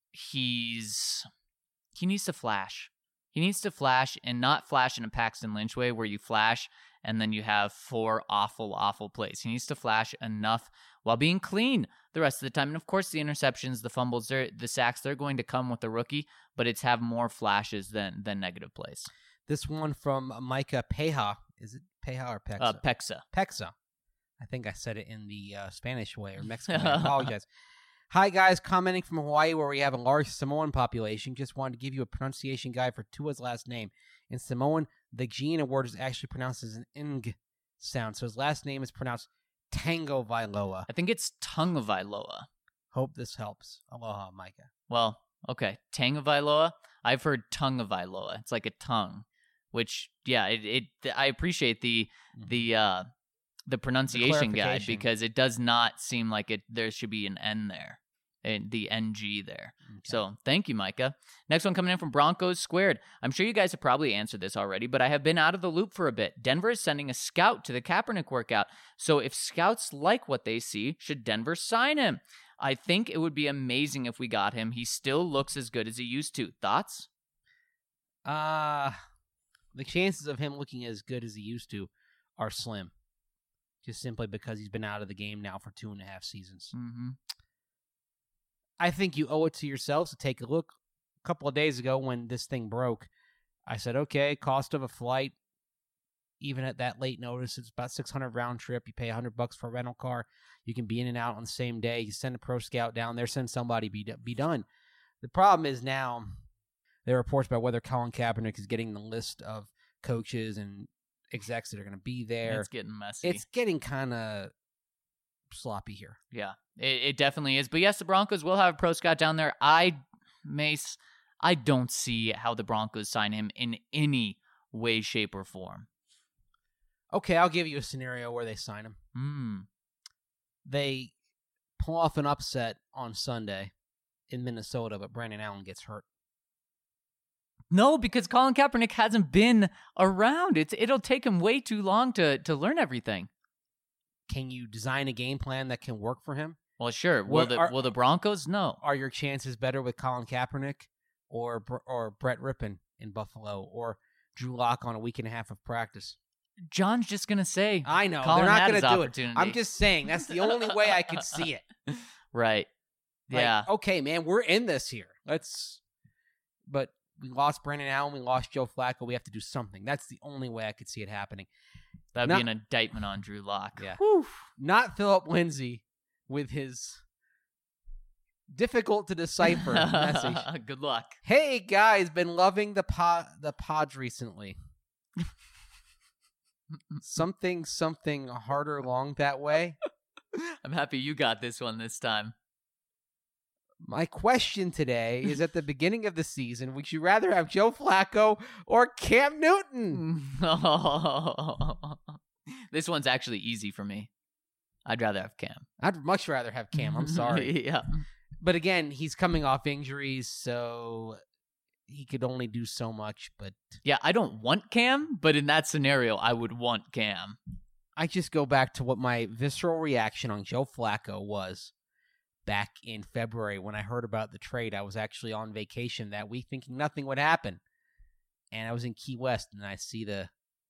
he's he needs to flash. He needs to flash, and not flash in a Paxton Lynch way where you flash and then you have four awful, awful plays. He needs to flash enough while being clean the rest of the time. And of course, the interceptions, the fumbles, the sacks, they're going to come with the rookie, but it's have more flashes than than negative plays. This one from Micah Peja. Is it Peja or Pexa? Uh, Pexa. Pexa. I think I said it in the uh, Spanish way or Mexican way. I apologize. Hi, guys. Commenting from Hawaii where we have a large Samoan population. Just wanted to give you a pronunciation guide for Tua's last name. In Samoan, the G in a word is actually pronounced as an ing sound. So his last name is pronounced Tango Vailoa. I think it's Tungavailoa. Hope this helps. Aloha, Micah. Well, okay. Tangavailoa. I've heard Tungavailoa. It's like a tongue, which, yeah, it, it I appreciate the the uh, the pronunciation The guide clarification. because it does not seem like it. There should be an N there, and the N G there. Okay. So thank you, Micah. Next one coming in from Broncos Squared. I'm sure you guys have probably answered this already, but I have been out of the loop for a bit. Denver is sending a scout to the Kaepernick workout. So if scouts like what they see, should Denver sign him? I think it would be amazing if we got him. He still looks as good as he used to. Thoughts? Uh, the chances of him looking as good as he used to are slim. Just simply because he's been out of the game now for two and a half seasons. Mm-hmm. I think you owe it to yourselves to take a look. A couple of days ago when this thing broke, I said, okay, cost of a flight, even at that late notice, it's about six hundred round trip. You pay one hundred bucks for a rental car. You can be in and out on the same day. You send a pro scout down there, send somebody, be, be done. The problem is now there are reports about whether Colin Kaepernick is getting the list of coaches and execs that are going to be there. It's getting messy. It's getting kind of sloppy here. Yeah, it, it definitely is. But yes, the Broncos will have a pro scout down there. I, Mace, I don't see how the Broncos sign him in any way, shape, or form. Okay, I'll give you a scenario where they sign him. Hmm. They pull off an upset on Sunday in Minnesota, but Brandon Allen gets hurt. No, because Colin Kaepernick hasn't been around. It's it'll take him way too long to to learn everything. Can you design a game plan that can work for him? Well, sure. Will What the are- will the Broncos? No. Are your chances better with Colin Kaepernick or Br- or Brett Rippon in Buffalo or Drew Lock on a week and a half of practice? John's just gonna say. I know Colin they're not had going his to do it. opportunity. I'm just saying that's the only way I could see it. Right. Like, Yeah. okay, man, we're in this here. Let's. But we lost Brandon Allen. We lost Joe Flacco. We have to do something. That's the only way I could see it happening. That'd not- be an indictment on Drew Lock. Yeah. Whew. Not Philip Lindsay with his difficult to decipher message. Good luck. Hey guys, been loving the pod the pods recently. something something harder long that way. I'm happy you got this one this time. My question today is: at the beginning of the season, would you rather have Joe Flacco or Cam Newton? This one's actually easy for me. I'd rather have Cam. I'd much rather have Cam. I'm sorry, Yeah. but again, he's coming off injuries, so he could only do so much. But Yeah, I don't want Cam, but in that scenario, I would want Cam. I just go back to what my visceral reaction on Joe Flacco was back in February when I heard about the trade. I was actually on vacation that week thinking nothing would happen. And I was in Key West and I see the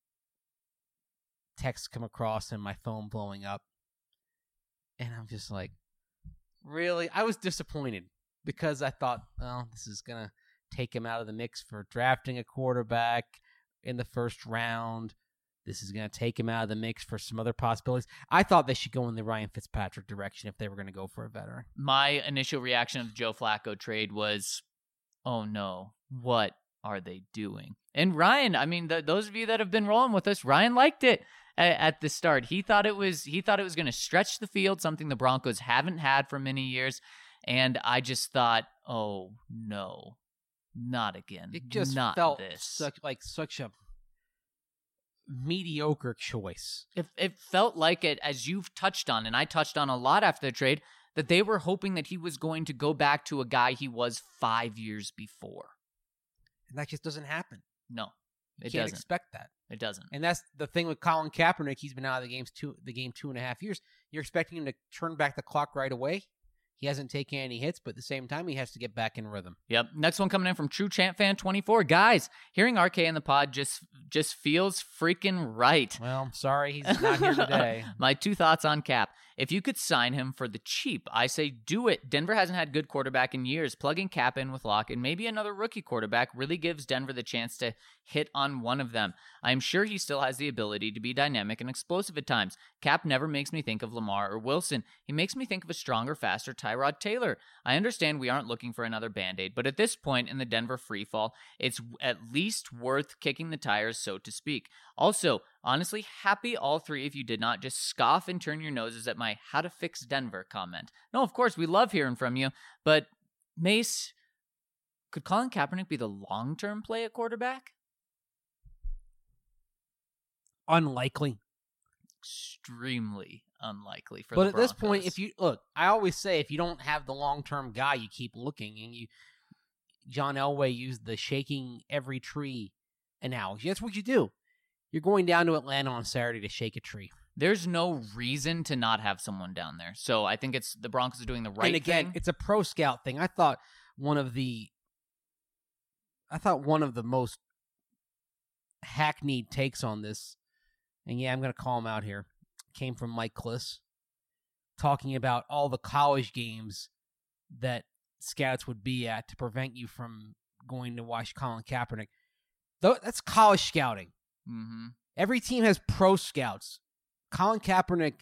text come across and my phone blowing up. And I'm just like, really? I was disappointed because I thought, well, this is going to take him out of the mix for drafting a quarterback in the first round. This is going to take him out of the mix for some other possibilities. I thought they should go in the Ryan Fitzpatrick direction if they were going to go for a veteran. My initial reaction of the Joe Flacco trade was, oh no, what are they doing? And Ryan, I mean, the, those of you that have been rolling with us, Ryan liked it at, at the start. He thought it was he thought it was going to stretch the field, something the Broncos haven't had for many years. And I just thought, oh no, not again. It just not felt this. such like such a mediocre choice. It, it felt like it, as you've touched on, and I touched on a lot after the trade, that they were hoping that he was going to go back to a guy he was five years before. And that just doesn't happen. No, You it can't doesn't. expect that. It doesn't. And that's the thing with Colin Kaepernick. He's been out of the games two the game two and a half years. You're expecting him to turn back the clock right away. He hasn't taken any hits, but at the same time, he has to get back in rhythm. Yep. Next one coming in from True Champ Fan twenty-four. Guys, hearing R K in the pod just just feels freaking right. Well, I'm sorry he's not here today. My two thoughts on Cap. If you could sign him for the cheap, I say do it. Denver hasn't had good quarterback in years. Plugging Cap in with Lock and maybe another rookie quarterback really gives Denver the chance to hit on one of them. I am sure he still has the ability to be dynamic and explosive at times. Cap never makes me think of Lamar or Wilson. He makes me think of a stronger, faster Tyrod Taylor. I understand we aren't looking for another Band-Aid, but at this point in the Denver freefall, it's at least worth kicking the tires, so to speak. Also, honestly, happy all three of you did not just scoff and turn your noses at my how to fix Denver comment. No, of course, we love hearing from you, but Mace, could Colin Kaepernick be the long-term play at quarterback? Unlikely. Extremely unlikely for but the at this point, Broncos. if you look, I always say if you don't have the long-term guy, you keep looking. And you, John Elway used the shaking every tree analogy. That's what you do. You're going down to Atlanta on Saturday to shake a tree. There's no reason to not have someone down there. So I think it's the Broncos are doing the right and again, thing. it's a pro scout thing. I thought one of the, I thought one of the most hackneyed takes on this, and yeah, I'm going to call him out here, came from Mike Kliss, talking about all the college games that scouts would be at to prevent you from going to watch Colin Kaepernick. Th- that's college scouting. Mm-hmm. Every team has pro scouts. Colin Kaepernick,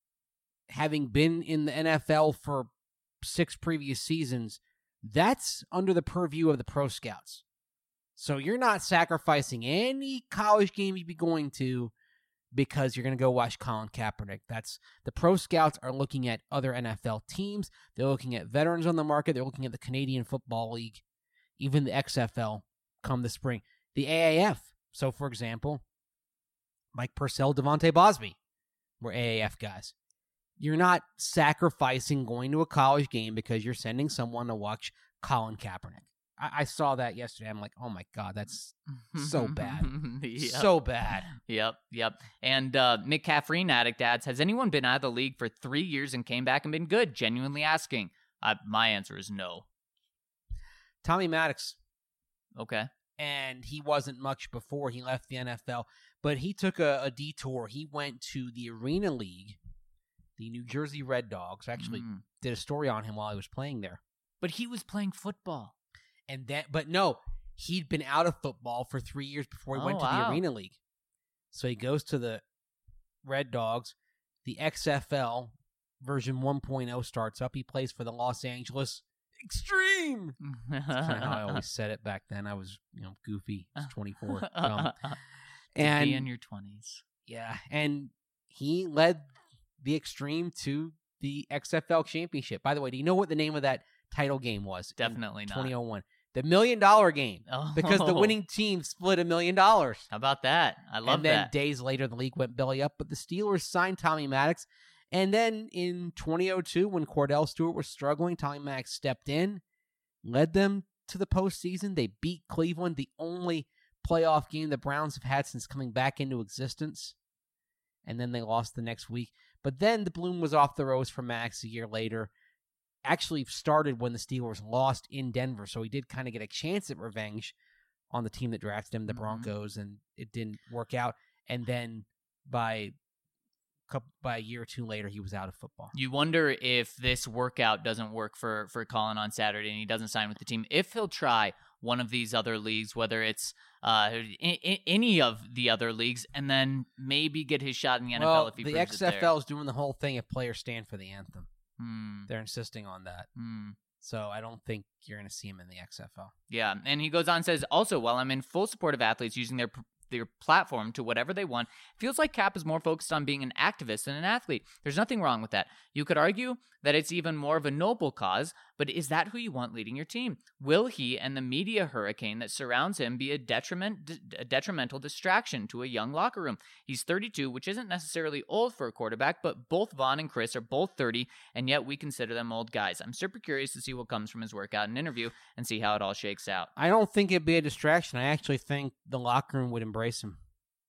having been in the N F L for six previous seasons, that's under the purview of the pro scouts. So you're not sacrificing any college game you'd be going to because you're going to go watch Colin Kaepernick. That's the pro scouts are looking at other N F L teams. They're looking at veterans on the market. They're looking at the Canadian Football League, even the X F L come the spring. The A A F. So, for example, Mike Purcell, Devontae Bosby were A A F guys. You're not sacrificing going to a college game because you're sending someone to watch Colin Kaepernick. I, I saw that yesterday. I'm like, oh my God, that's so bad. Yep. So bad. Yep, yep. And uh, Mick Caffrine Addict adds, has anyone been out of the league for three years and came back and been good? Genuinely asking. Uh, my answer is no. Tommy Maddox. Okay. And he wasn't much before he left the N F L, but he took a, a detour. He went to the Arena League, the New Jersey Red Dogs. I actually Mm. did a story on him while he was playing there. But he was playing football. And that, but no, he'd been out of football for three years before he Oh, went to wow. the Arena League. So he goes to the Red Dogs. The X F L version one point oh starts up. He plays for the Los Angeles Extreme. That's kind of how I always said it back then. I was, you know, goofy. I was twenty-four. Dumb. And And be in your twenties. yeah, and he led the Extreme to the X F L championship. By the way, do you know what the name of that title game was? Definitely in not. twenty oh one. The million dollar game. Oh. Because the winning team split a million dollars. How about that? I love and then that. days later, the league went belly up, but the Steelers signed Tommy Maddox. And then in twenty oh two, when Cordell Stewart was struggling, Tommy Maddox stepped in, led them to the postseason. They beat Cleveland, the only playoff game the Browns have had since coming back into existence. And then they lost the next week. But then the bloom was off the rose for Maddox a year later. Actually started when the Steelers lost in Denver, so he did kind of get a chance at revenge on the team that drafted him, the Mhm. Broncos, and it didn't work out. And then by couple, by a year or two later, he was out of football. You wonder if this workout doesn't work for, for Colin on Saturday and he doesn't sign with the team, if he'll try one of these other leagues, whether it's uh, I- I- any of the other leagues, and then maybe get his shot in the N F L Well, if he the proves it X F L there. is doing the whole thing if players stand for the anthem. Hmm. They're insisting on that. Hmm. So I don't think you're going to see him in the X F L. Yeah, and he goes on and says, also, while I'm in full support of athletes using their their platform to whatever they want, it feels like Cap is more focused on being an activist than an athlete. There's nothing wrong with that. You could argue that it's even more of a noble cause, but is that who you want leading your team? Will he and the media hurricane that surrounds him be a detriment, a detrimental distraction to a young locker room? He's thirty-two, which isn't necessarily old for a quarterback, but both Vaughn and Chris are both thirty, and yet we consider them old guys. I'm super curious to see what comes from his workout and interview and see how it all shakes out. I don't think it'd be a distraction. I actually think the locker room would embrace him.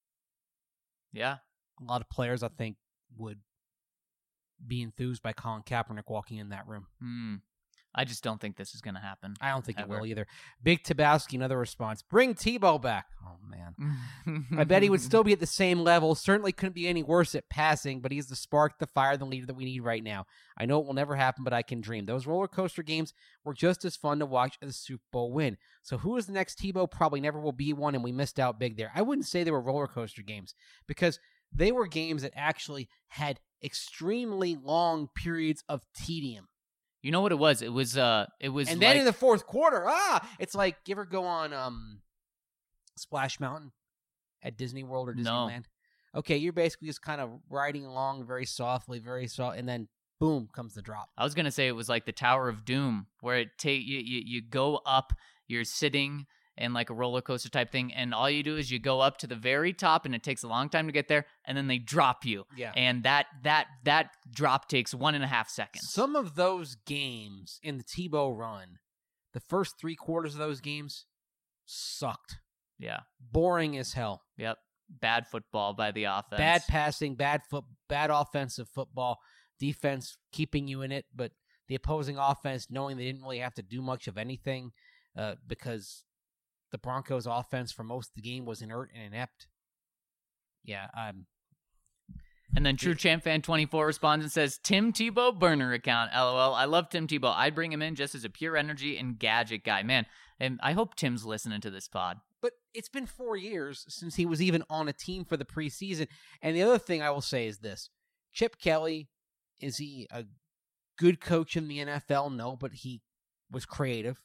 Yeah. A lot of players, I think, would be enthused by Colin Kaepernick walking in that room. Hmm. I just don't think this is going to happen. I don't think Ever. it will either. Big Tabowski, another response. Bring Tebow back. Oh, man. I bet he would still be at the same level. Certainly couldn't be any worse at passing, but he's the spark, the fire, the leader that we need right now. I know it will never happen, but I can dream. Those roller coaster games were just as fun to watch as a Super Bowl win. So who is the next Tebow? Probably never will be one, and we missed out big there. I wouldn't say they were roller coaster games because they were games that actually had extremely long periods of tedium. You know what it was? It was uh it was And like, then in the fourth quarter, ah, it's like, you ever go on um, Splash Mountain at Disney World or No. Disneyland? Okay, you're basically just kind of riding along very softly, very soft, and then boom comes the drop. I was gonna say it was like the Tower of Doom, where it take you, you you go up, you're sitting in like a roller coaster type thing, and all you do is you go up to the very top, and it takes a long time to get there, and then they drop you, Yeah. and that that that drop takes one and a half seconds. Some of those games in the Tebow run, the first three quarters of those games sucked. Yeah. Boring as hell. Yep. Bad football by the offense. Bad passing, bad foot, bad offensive football, defense keeping you in it, but the opposing offense knowing they didn't really have to do much of anything uh, because the Broncos' offense for most of the game was inert and inept. Yeah, um, And then True Champ Fan twenty-four responds and says, Tim Tebow burner account, LOL. I love Tim Tebow. I'd bring him in just as a pure energy and gadget guy. Man, and I hope Tim's listening to this pod. but it's been four years since he was even on a team for the preseason. And the other thing I will say is this. Chip Kelly, is he a good coach in the N F L? No, but he was creative.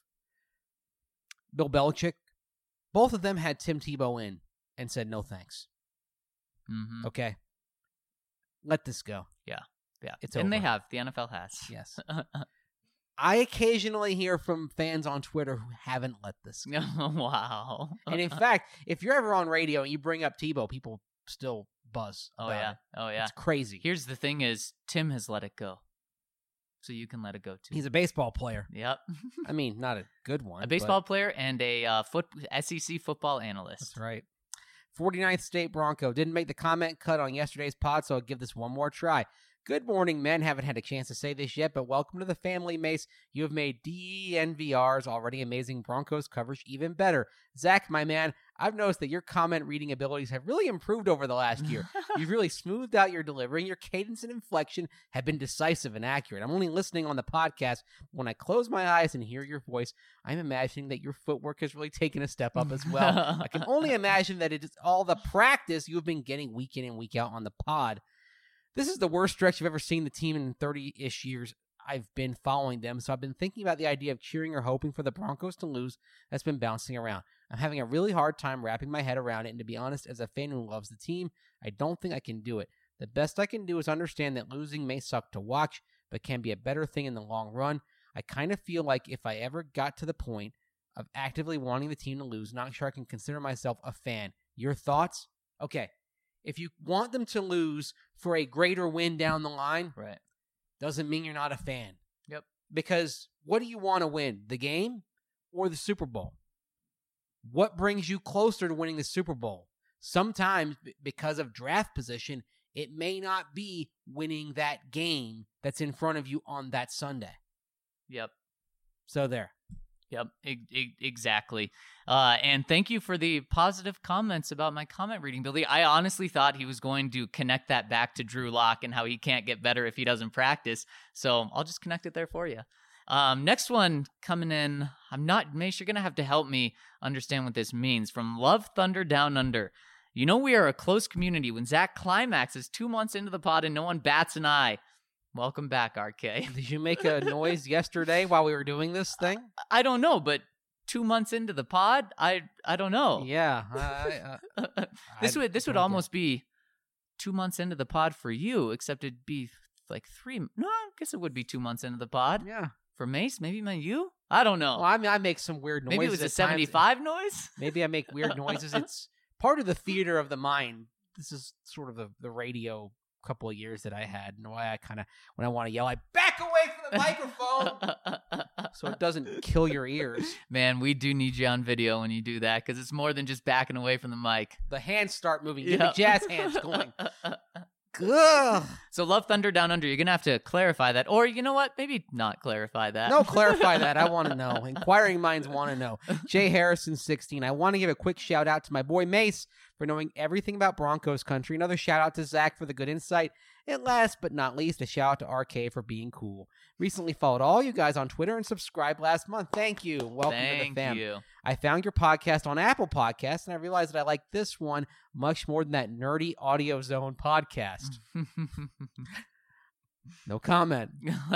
Bill Belichick, both of them had Tim Tebow in and said no thanks. Mm-hmm. Okay? Let this go. Yeah. It's and over. they have. The N F L has. Yes. I occasionally hear from fans on Twitter who haven't let this go. Wow. And in fact, if you're ever on radio and you bring up Tebow, people still buzz. Oh, about yeah. it. Oh, yeah. It's crazy. Here's the thing is, Tim has let it go. So you can let it go, too. He's a baseball player. Yep. I mean, not a good one. a baseball player and a uh, foot S E C football but analyst. That's right. forty-ninth State Bronco. Didn't make the comment cut on yesterday's pod, so I'll give this one more try. Good morning, men. Haven't had a chance to say this yet, but welcome to the family, Mace. You have made D N V R's already amazing Broncos coverage even better. Zach, my man, I've noticed that your comment reading abilities have really improved over the last year. You've really smoothed out your delivery, and your cadence and inflection have been decisive and accurate. I'm only listening on the podcast. When I close my eyes and hear your voice, I'm imagining that your footwork has really taken a step up as well. I can only imagine that it is all the practice you have been getting week in and week out on the pod. This is the worst stretch I've ever seen the team in thirty-ish years I've been following them, so I've been thinking about the idea of cheering or hoping for the Broncos to lose that's been bouncing around. I'm having a really hard time wrapping my head around it, and to be honest, as a fan who loves the team, I don't think I can do it. The best I can do is understand that losing may suck to watch, but can be a better thing in the long run. I kind of feel like if I ever got to the point of actively wanting the team to lose, not sure I can consider myself a fan. Your thoughts? Okay. If you want them to lose for a greater win down the line, Right. doesn't mean you're not a fan. Yep. Because what do you want to win? The game or the Super Bowl? What brings you closer to winning the Super Bowl? Sometimes, b- because of draft position, it may not be winning that game that's in front of you on that Sunday. Yep. So there. Yep, e- e- exactly. Uh, and thank you for the positive comments about my comment reading, Billy. I honestly thought he was going to connect that back to Drew Lock and how he can't get better if he doesn't practice. So I'll just connect it there for you. Um, next one coming in. I'm not, Mace, you're going to have to help me understand what this means. From Love Thunder Down Under. You know we are a close community. When Zach climaxes two months into the pod and no one bats an eye. Welcome back, R K. Did you make a noise yesterday while we were doing this thing? I don't know, but two months into the pod, I I don't know. Yeah. I, uh, this I would this would don't get almost be two months into the pod for you, except it'd be like three. No, I guess it would be two months into the pod Yeah. for Mace. Maybe my you. I don't know. Well, I mean, I make some weird noises. Maybe it was a at times. seventy-five noise. Maybe I make weird noises. It's part of the theater of the mind. This is sort of the, the radio couple of years that I had, and why I kind of, when I want to yell, I back away from the microphone so it doesn't kill your ears. Man, we do need you on video when you do that, because it's more than just backing away from the mic. The hands start moving. Get Yep. the jazz hands going. Ugh. So Love Thunder Down Under, you're going to have to clarify that. Or you know what? Maybe not clarify that. No, clarify that. I want to know. Inquiring minds want to know. Jay Harrison, sixteen. I want to give a quick shout out to my boy Mace for knowing everything about Broncos country. Another shout out to Zach for the good insight. And last but not least, a shout out to R K for being cool. Recently followed all you guys on Twitter and subscribed last month. Thank you. Welcome Thank to the fam. you. I found your podcast on Apple Podcasts, and I realized that I like this one much more than that nerdy Audio Zone podcast. No comment.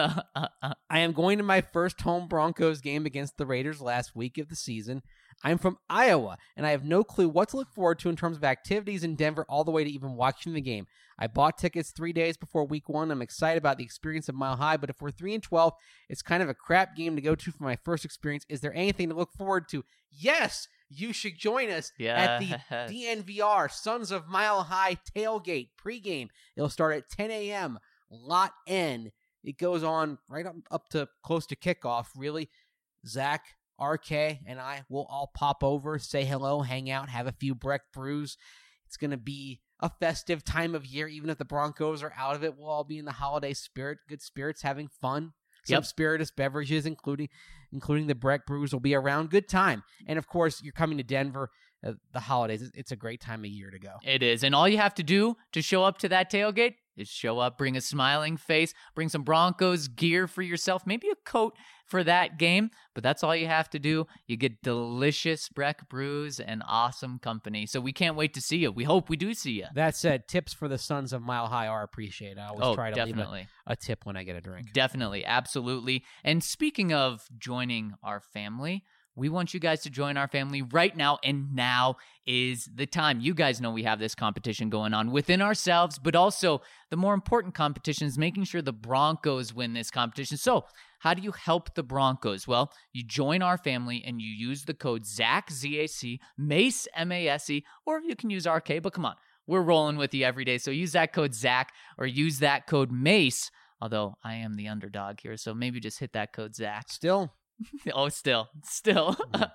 I am going to my first home Broncos game against the Raiders last week of the season. I'm from Iowa, and I have no clue what to look forward to in terms of activities in Denver all the way to even watching the game. I bought tickets three days before week one. I'm excited about the experience of Mile High, but if we're three and twelve, it's kind of a crap game to go to for my first experience. Is there anything to look forward to? Yes, you should join us at the D N V R Sons of Mile High tailgate pregame. It'll start at ten a.m. Lot N. It goes on right up, up to close to kickoff, really. Zach, R K, and I will all pop over, say hello, hang out, have a few Breck brews. It's going to be a festive time of year. Even if the Broncos are out of it, we'll all be in the holiday spirit, good spirits, having fun. Some yep. spirituous beverages, including including the Breck brews, will be around. Good time. And, of course, you're coming to Denver. Uh, the holidays, it's a great time of year to go. It is. And all you have to do to show up to that tailgate is show up, bring a smiling face, bring some Broncos gear for yourself, maybe a coat for that game. But that's all you have to do. You get delicious Breck brews and awesome company. So we can't wait to see you. We hope we do see you. That said, tips for the Sons of Mile High are appreciated. I always oh, try to definitely. leave a, a tip when I get a drink. Definitely. Absolutely. And speaking of joining our family, we want you guys to join our family right now, and now is the time. You guys know we have this competition going on within ourselves, but also the more important competition is making sure the Broncos win this competition. So how do you help the Broncos? Well, you join our family and you use the code ZAC, Z A C, Mace, M A S E, or you can use R K, but come on, we're rolling with you every day. So use that code ZAC or use that code Mace, although I am the underdog here, so maybe just hit that code ZAC. Still. Oh, still, still.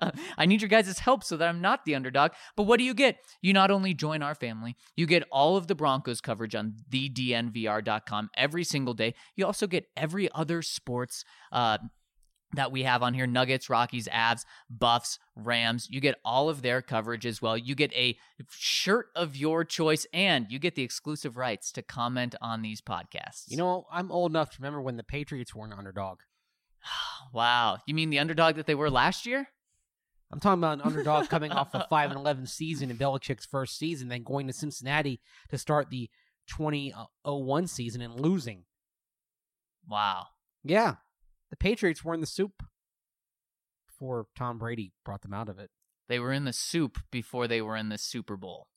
I need your guys' help so that I'm not the underdog. But what do you get? You not only join our family, you get all of the Broncos coverage on the D N V R dot com every single day. You also get every other sports uh, that we have on here: Nuggets, Rockies, Avs, Buffs, Rams. You get all of their coverage as well. You get a shirt of your choice, and you get the exclusive rights to comment on these podcasts. You know, I'm old enough to remember when the Patriots were an underdog. Wow. You mean the underdog that they were last year? I'm talking about an underdog coming off a five and eleven season in Belichick's first season, then going to Cincinnati to start the twenty oh one season and losing. Wow. Yeah. The Patriots were in the soup before Tom Brady brought them out of it. They were in the soup before they were in the Super Bowl.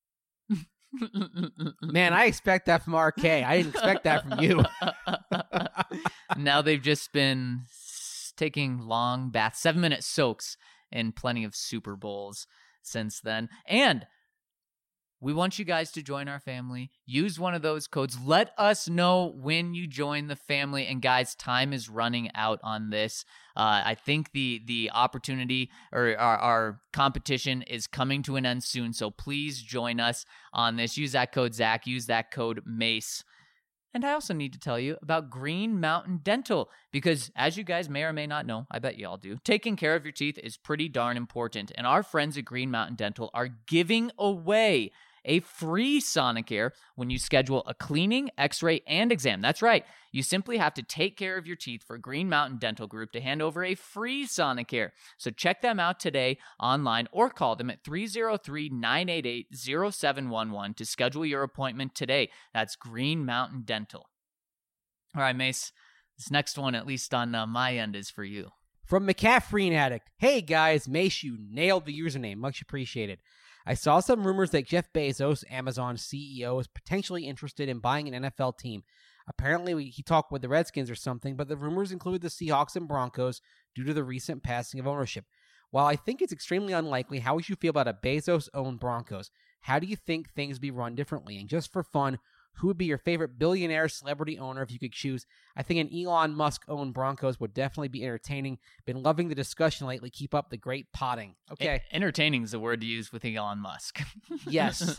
Man, I expect that from R K. I didn't expect that from you. Now they've just been taking long baths, seven-minute soaks, in plenty of Super Bowls since then. And we want you guys to join our family. Use one of those codes. Let us know when you join the family. And guys, time is running out on this. Uh, I think the the opportunity or our, our competition is coming to an end soon. So please join us on this. Use that code Zach. Use that code Mace. And I also need to tell you about Green Mountain Dental, because as you guys may or may not know, I bet you all do, taking care of your teeth is pretty darn important. And our friends at Green Mountain Dental are giving away a free Sonicare when you schedule a cleaning, x-ray, and exam. That's right. You simply have to take care of your teeth for Green Mountain Dental Group to hand over a free Sonicare. So check them out today online or call them at three oh three, nine eight eight, oh seven one one to schedule your appointment today. That's Green Mountain Dental. All right, Mace, this next one, at least on uh, my end, is for you. From McCaffrey Addict. Hey guys, Mace, you nailed the username. Much appreciated. I saw some rumors that Jeff Bezos, Amazon C E O, is potentially interested in buying an N F L team. Apparently, we, he talked with the Redskins or something, but the rumors include the Seahawks and Broncos due to the recent passing of ownership. While I think it's extremely unlikely, how would you feel about a Bezos-owned Broncos? How do you think things be run differently? And just for fun, who would be your favorite billionaire celebrity owner if you could choose? I think an Elon Musk-owned Broncos would definitely be entertaining. Been loving the discussion lately. Keep up the great potting. Okay. E- entertaining is the word to use with Elon Musk. Yes.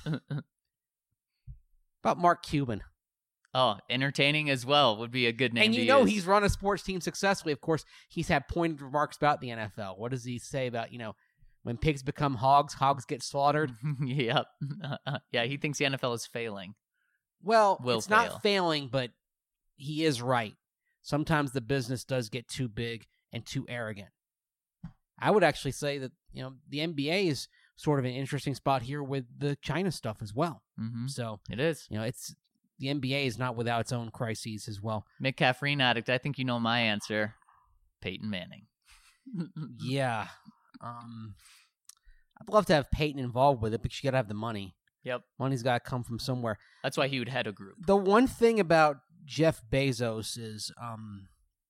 About Mark Cuban. Oh, entertaining as well would be a good name and to you know use. He's run a sports team successfully. Of course, he's had pointed remarks about the N F L. What does he say about, you know, when pigs become hogs, hogs get slaughtered? Yep. Uh, yeah, he thinks the N F L is failing. Well, Will it's fail. not failing, but he is right. Sometimes the business does get too big and too arrogant. I would actually say that, you know, the N B A is sort of an interesting spot here with the China stuff as well. Mm-hmm. So it is. You know, it's the N B A is not without its own crises as well. Mick caffeine addict. I think you know my answer. Peyton Manning. Yeah. Um, I'd love to have Peyton involved with it, but you got to have the money. Yep. Money's got to come from somewhere. That's why he would head a group. The one thing about Jeff Bezos is um,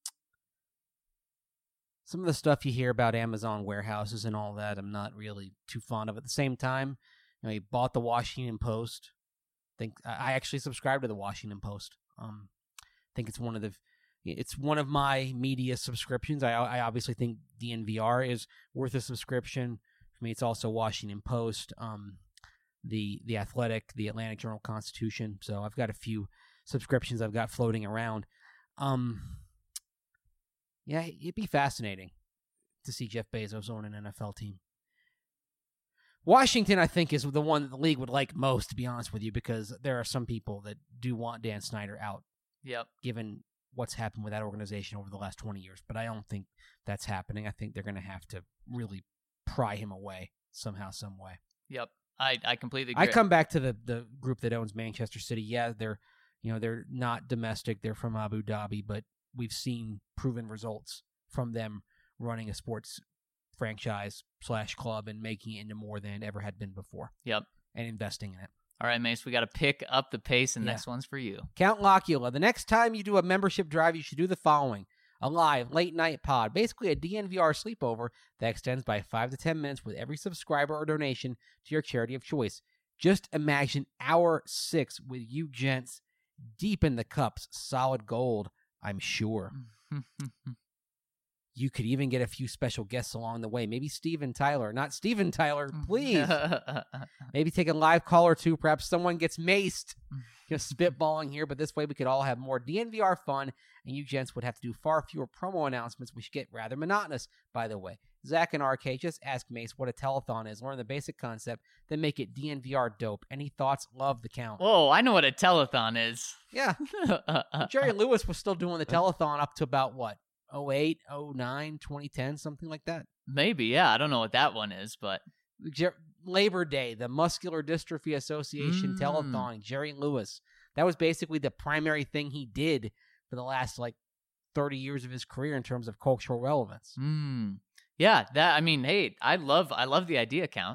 some of the stuff you hear about Amazon warehouses and all that, I'm not really too fond of. At the same time, you know, he bought the Washington Post. I think I actually subscribe to the Washington Post. Um, I think it's one of the it's one of my media subscriptions. I I obviously think D N V R is worth a subscription. For me, it's also Washington Post, um, the the Athletic, the Atlantic Journal-Constitution. So I've got a few subscriptions I've got floating around. Um, yeah, it'd be fascinating to see Jeff Bezos own an N F L team. Washington, I think, is the one that the league would like most, to be honest with you, because there are some people that do want Dan Snyder out. Yep. Given what's happened with that organization over the last twenty years. But I don't think that's happening. I think they're going to have to really pry him away somehow, some way. Yep. I, I completely agree. I come back to the, the group that owns Manchester City. Yeah, they're you know they're not domestic. They're from Abu Dhabi, but we've seen proven results from them running a sports franchise slash club and making it into more than it ever had been before. Yep. And investing in it. All right, Mace, we got to pick up the pace, and Yeah. next one's for you. Count Locula. The next time you do a membership drive, you should do the following. A live late-night pod, basically a D N V R sleepover that extends by five to ten minutes with every subscriber or donation to your charity of choice. Just imagine hour six with you gents deep in the cups. Solid gold, I'm sure. You could even get a few special guests along the way. Maybe Steven Tyler. Not Steven Tyler, please. Maybe take a live call or two. Perhaps someone gets maced. Just spitballing here, but this way we could all have more D N V R fun, and you gents would have to do far fewer promo announcements, which get rather monotonous, by the way. Zach and R K, just ask Mace what a telethon is. Learn the basic concept, then make it D N V R dope. Any thoughts? Love the count. Whoa, I know what a telethon is. Yeah. Jerry Lewis was still doing the telethon up to about, what, oh eight, oh nine, twenty ten, something like that? Maybe, yeah. I don't know what that one is, but... Jer- Labor Day, the Muscular Dystrophy Association Mm. telethon, Jerry Lewis. That was basically the primary thing he did for the last, like, thirty years of his career in terms of cultural relevance. Mm. Yeah, that, I mean, hey, I love I love the idea, Count.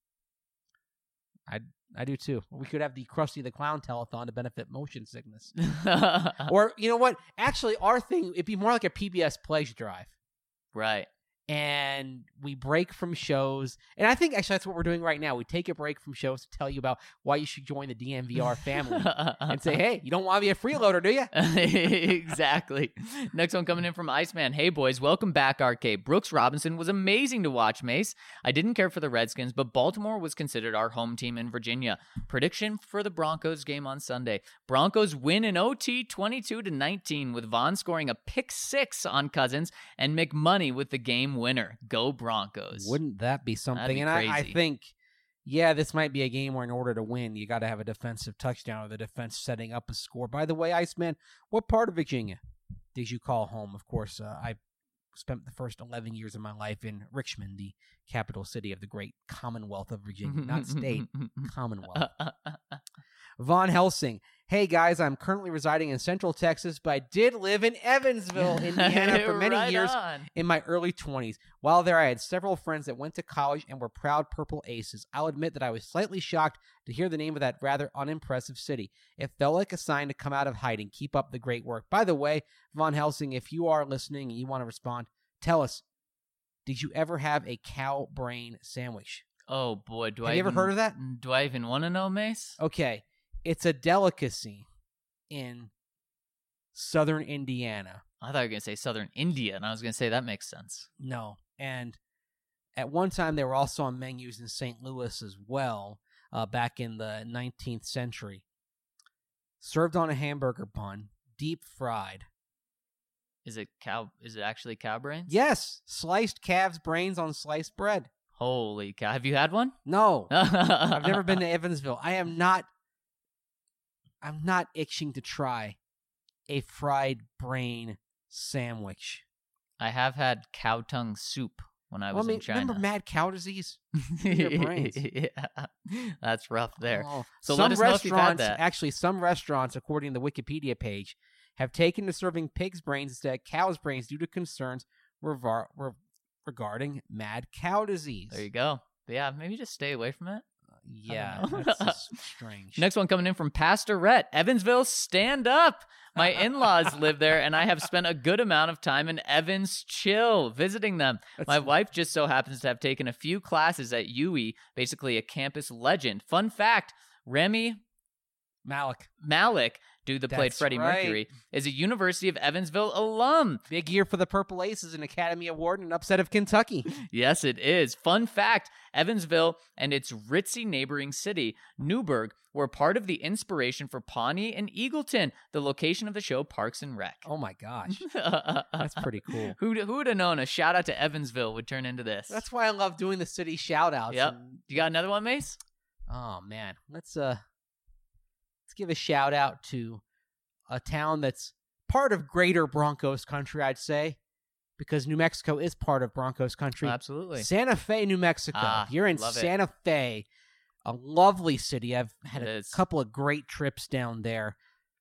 I I do too. We could have the Krusty the Clown telethon to benefit motion sickness. Or, you know what? Actually, our thing, it'd be more like a P B S Pledge Drive. Right. And we break from shows. And I think actually that's what we're doing right now. We take a break from shows to tell you about why you should join the D N V R family. And say, hey, you don't want to be a freeloader, do you? Exactly. Next one coming in from Iceman. Hey, boys, welcome back, Arcade. Brooks Robinson was amazing to watch, Mace. I didn't care for the Redskins, but Baltimore was considered our home team in Virginia. Prediction for the Broncos game on Sunday. Broncos win in O T twenty-two to nineteen with Vaughn scoring a pick six on Cousins and McMoney with the game winner. Go Broncos. Wouldn't that be something? be and I, I crazy. think, yeah, this might be a game where in order to win, you got to have a defensive touchdown or the defense setting up a score. By the way, Iceman, what part of Virginia did you call home? Of course, uh, I spent the first eleven years of my life in Richmond, the capital city of the great Commonwealth of Virginia. Not state, Commonwealth. Von Helsing. Hey, guys, I'm currently residing in Central Texas, but I did live in Evansville, Indiana for many Right years on. in my early twenties. While there, I had several friends that went to college and were proud Purple Aces. I'll admit that I was slightly shocked to hear the name of that rather unimpressive city. It felt like a sign to come out of hiding. Keep up the great work. By the way, Von Helsing, if you are listening and you want to respond, tell us, did you ever have a cow brain sandwich? Oh, boy. Do Have I you ever even- heard of that? Do I even want to know, Mace? Okay, it's a delicacy in southern Indiana. I thought you were going to say Southern India, and I was going to say that makes sense. No. And at one time, they were also on menus in Saint Louis as well, uh, back in the nineteenth century. Served on a hamburger bun, deep fried. Is it cow? Is it actually cow brains? Yes, sliced calves' brains on sliced bread. Holy cow! Have you had one? No, I've never been to Evansville. I am not, I'm not itching to try a fried brain sandwich. I have had cow tongue soup. when I Well, was I mean, in China. remember mad cow disease? Your brains. Yeah, that's rough there. Oh. So some let us know if you've had restaurants, that. actually, some restaurants, according to the Wikipedia page, have taken to serving pig's brains instead of cow's brains due to concerns revar- re- regarding mad cow disease. There you go. But yeah, maybe just stay away from it. Yeah, know. that's just strange. Next one coming in from Pastor Rhett. Evansville, stand up. My in-laws live there, and I have spent a good amount of time in Evans Chill visiting them. That's- My wife just so happens to have taken a few classes at U E, basically a campus legend. Fun fact, Remy Malik, Malik, dude that played That's Freddie right. Mercury, is a University of Evansville alum. big year for the Purple Aces, an Academy Award, and an upset of Kentucky. Yes, it is. Fun fact, Evansville and its ritzy neighboring city, Newburgh, were part of the inspiration for Pawnee and Eagleton, the location of the show Parks and Rec. Oh my gosh, that's pretty cool. Who who would have known a shout out to Evansville would turn into this? That's why I love doing the city shout outs. Yep. You got another one, Mace? Oh man, let's uh let's give a shout out to a town that's part of greater Broncos country, I'd say, because New Mexico is part of Broncos country. Absolutely. Santa Fe, New Mexico. Ah, You're in love it. Santa Fe, a lovely city. I've had It a is. couple of great trips down there.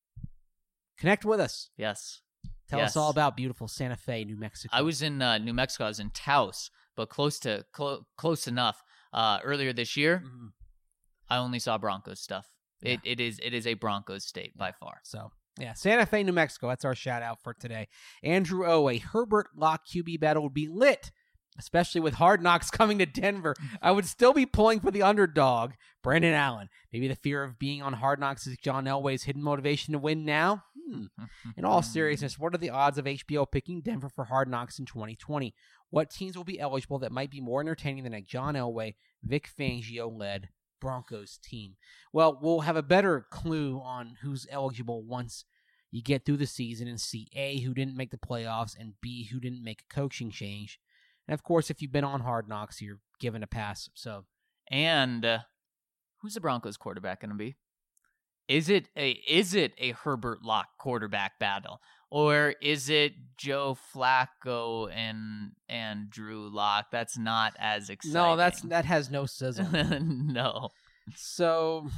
Connect with us. Yes. Tell Yes. us all about beautiful Santa Fe, New Mexico. I was in uh, New Mexico. I was in Taos, but close to clo- close enough. Uh, earlier this year, Mhm. I only saw Broncos stuff. It it is it is a Broncos state by far. So, yeah, Santa Fe, New Mexico. That's our shout out for today. Andrew O, a Herbert Locke Q B battle would be lit, especially with Hard Knocks coming to Denver. I would still be pulling for the underdog, Brandon Allen. Maybe the fear of being on Hard Knocks is John Elway's hidden motivation to win now? Hmm. In all seriousness, what are the odds of H B O picking Denver for Hard Knocks in twenty twenty? What teams will be eligible that might be more entertaining than a John Elway, Vic Fangio-led Broncos team? Well, we'll have a better clue on who's eligible once you get through the season and see A, who didn't make the playoffs, and B, who didn't make a coaching change. And of course, if you've been on Hard Knocks, you're given a pass. So, And uh, who's the Broncos quarterback going to be? Is it a is it a Herbert Locke quarterback battle, or is it Joe Flacco and and Drew Lock? That's not as exciting. no, that's that has no sizzle. no. So,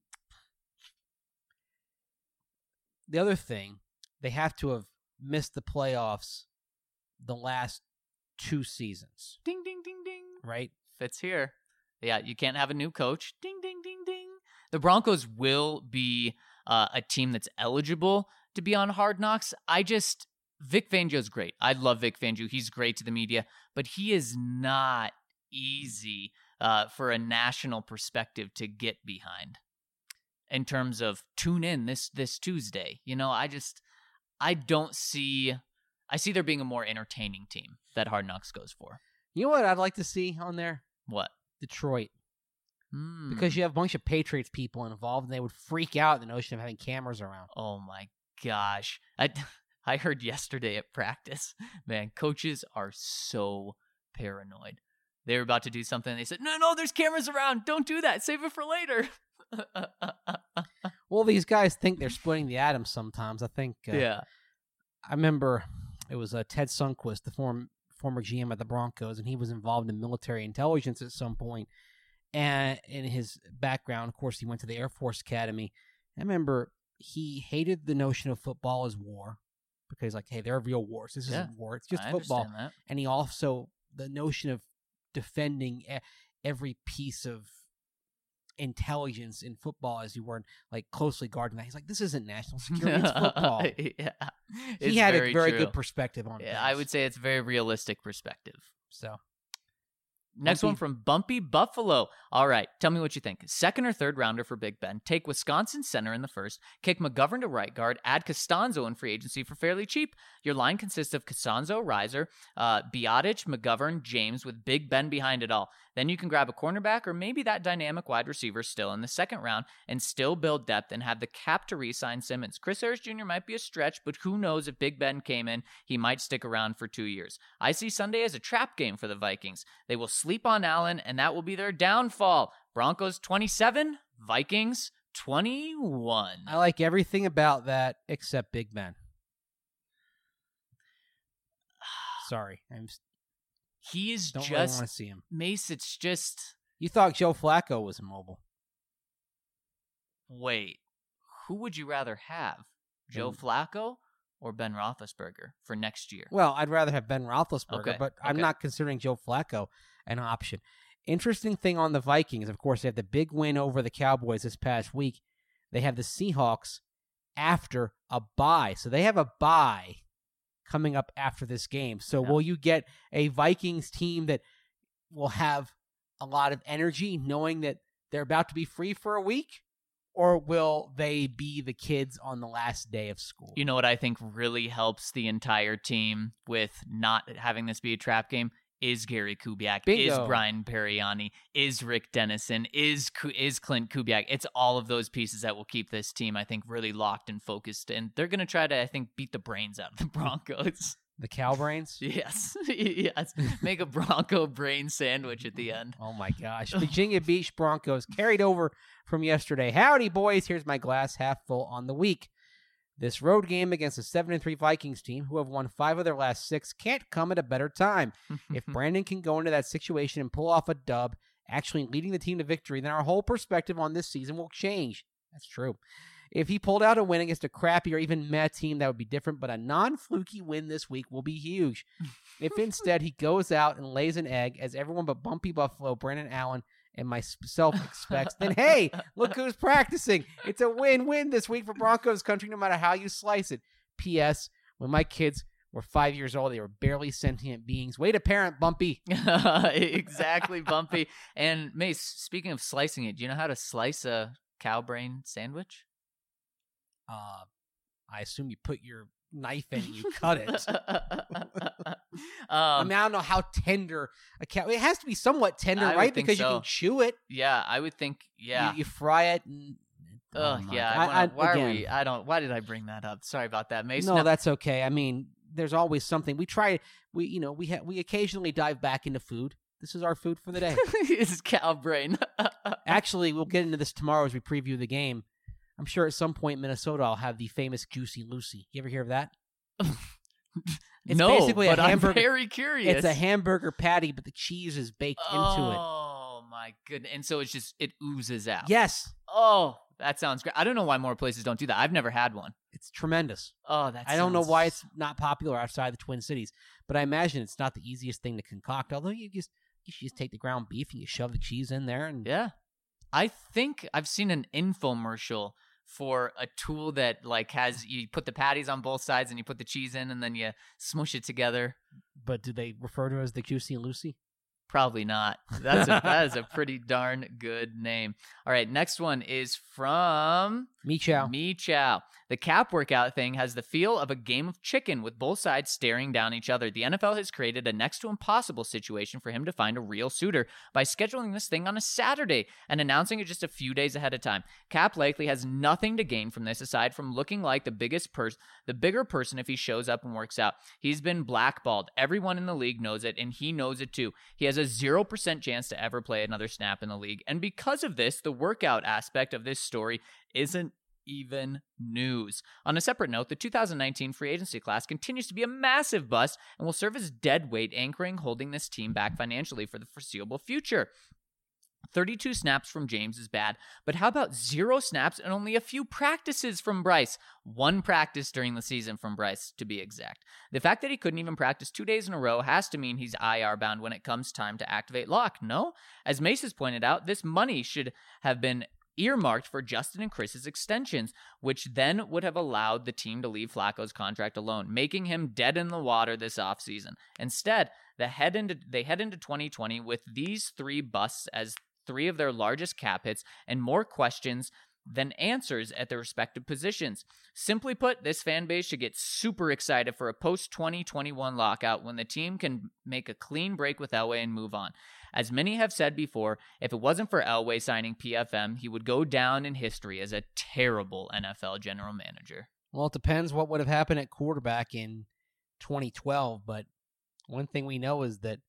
the other thing, they have to have missed the playoffs the last two seasons, Ding ding ding ding. right? Fits here. Yeah, you can't have a new coach. Ding ding ding ding. The Broncos will be uh, a team that's eligible to be on Hard Knocks. I just Vic Fangio's great. I love Vic Fangio. He's great to the media, but he is not easy uh, for a national perspective to get behind in terms of tune in this this Tuesday. You know, I just I don't see I see there being a more entertaining team that Hard Knocks goes for. You know what I'd like to see on there? What? Detroit. Hmm. Because you have a bunch of Patriots people involved, and they would freak out at the notion of having cameras around. Oh my gosh. I, I heard yesterday at practice, man, coaches are so paranoid. They were about to do something. They said, no, no, there's cameras around. Don't do that. Save it for later. Well, these guys think they're splitting the atom sometimes. I think. Uh, yeah. I remember it was uh, Ted Sundquist, the former former G M at the Broncos, and he was involved in military intelligence at some point. And in his background, of course, he went to the Air Force Academy. I remember he hated the notion of football as war because, like, hey, there are real wars. This Yeah, isn't war. It's just I football. understand that. And he also, the notion of defending e- every piece of intelligence in football as you weren't, like, closely guarding that. He's like, this isn't national security. It's football. yeah. He It's had very a very true. good perspective on it. Yeah, I would say it's a very realistic perspective. So, Next Bumpy. one from Bumpy Buffalo. All right, tell me what you think. Second or third rounder for Big Ben. Take Wisconsin center in the first. Kick McGovern to right guard. Add Costanzo in free agency for fairly cheap. Your line consists of Costanzo, Reiser, uh, Biotic, McGovern, James, with Big Ben behind it all. Then you can grab a cornerback or maybe that dynamic wide receiver still in the second round and still build depth and have the cap to re-sign Simmons. Chris Harris Junior might be a stretch, but who knows if Big Ben came in, he might stick around for two years. I see Sunday as a trap game for the Vikings. They will sleep on Allen, and that will be their downfall. Broncos twenty-seven, Vikings twenty-one. I like everything about that except Big Ben. Sorry, I'm. s- He is Don't really just want to see him. Mace. It's just You thought Joe Flacco was immobile. wait. Who would you rather have, Joe Ben- Flacco or Ben Roethlisberger for next year? Well, I'd rather have Ben Roethlisberger, Okay, but I'm okay. not considering Joe Flacco an option. Interesting thing on the Vikings, of course, they have the big win over the Cowboys this past week. They have the Seahawks after a bye. So they have a bye coming up after this game. So Yeah. will you get a Vikings team that will have a lot of energy knowing that they're about to be free for a week? Or will they be the kids on the last day of school? You know what I think really helps the entire team with not having this be a trap game is Gary Kubiak, Bingo. is Brian Periani, is Rick Dennison, is Ku- is Clint Kubiak. It's all of those pieces that will keep this team, I think, really locked and focused. And they're going to try to, I think, beat the brains out of the Broncos. The Cowbrains? Yes. Yes. Make a Bronco brain sandwich at the end. Oh my gosh. Virginia Beach Broncos carried over from yesterday. Howdy, boys. Here's my glass half full on the week. This road game against a seven and three Vikings team, who have won five of their last six, can't come at a better time. If Brandon can go into that situation and pull off a dub, actually leading the team to victory, then our whole perspective on this season will change. That's true. If he pulled out a win against a crappy or even meh team, that would be different, but a non-fluky win this week will be huge. If instead he goes out and lays an egg, as everyone but Bumpy Buffalo, Brandon Allen, and myself expects, then hey, look who's practicing. It's a win-win this week for Broncos country, no matter how you slice it. P S. When my kids were five years old, they were barely sentient beings. Way to parent, Bumpy. Exactly, Bumpy. And Mace, speaking of slicing it, do you know how to slice a cow brain sandwich? Uh, I assume you put your knife in and you cut it. I um, mean, I don't know how tender a cow. It has to be somewhat tender, I would right? think Because you so. can chew it. yeah, I would think. Yeah. You, you fry it. And, Ugh, oh my yeah. God. I wanna, I- I- why again, are we? I don't. Why did I bring that up? Sorry about that, Mace. No, Now- that's okay. I mean, there's always something. We try. We you know we ha- we occasionally dive back into food. This is our food for the day. It's cow brain. Actually, we'll get into this tomorrow as we preview the game. I'm sure at some point Minnesota will have the famous Juicy Lucy. You ever hear of that? It's no, basically a but hamburger- I'm very curious. It's a hamburger patty, but the cheese is baked into it. Oh my goodness! And so it's just it oozes out. Yes, Oh, that sounds great. I don't know why more places don't do that. I've never had one. it's tremendous. Oh, that. I don't know sounds- why it's not popular outside the Twin Cities, but I imagine it's not the easiest thing to concoct. Although you just you should just take the ground beef and you shove the cheese in there, and Yeah, I think I've seen an infomercial for a tool that like has you put the patties on both sides and you put the cheese in and then you smush it together. but do they refer to it as the Juicy Lucy? Probably not. That's a, that is a pretty darn good name. All right, next one is from Me chow. Me Chow. The cap workout thing has the feel of a game of chicken with both sides staring down each other. The N F L has created a next to impossible situation for him to find a real suitor by scheduling this thing on a Saturday and announcing it just a few days ahead of time. Cap likely has nothing to gain from this aside from looking like the biggest person, the bigger person if he shows up and works out. He's been blackballed. Everyone in the league knows it, and he knows it too. He has a zero percent chance to ever play another snap in the league. And because of this, the workout aspect of this story isn't even news. On a separate note, the two thousand nineteen free agency class continues to be a massive bust and will serve as dead weight anchoring holding this team back financially for the foreseeable future. thirty-two snaps from James is bad, but how about zero snaps and only a few practices from Bryce? One practice during the season from Bryce, to be exact. The fact that he couldn't even practice two days in a row has to mean he's I R bound when it comes time to activate lock, no? As Mace has pointed out, this money should have been earmarked for Justin and Chris's extensions, which then would have allowed the team to leave Flacco's contract alone, making him dead in the water this offseason. Instead, the head into, they head into twenty twenty with these three busts as three of their largest cap hits and more questions than answers at their respective positions. Simply put, this fan base should get super excited for a post twenty twenty-one lockout when the team can make a clean break with Elway and move on. As many have said before, if it wasn't for Elway signing P F M, he would go down in history as a terrible N F L general manager. Well, it depends what would have happened at quarterback in twenty twelve, but one thing we know is that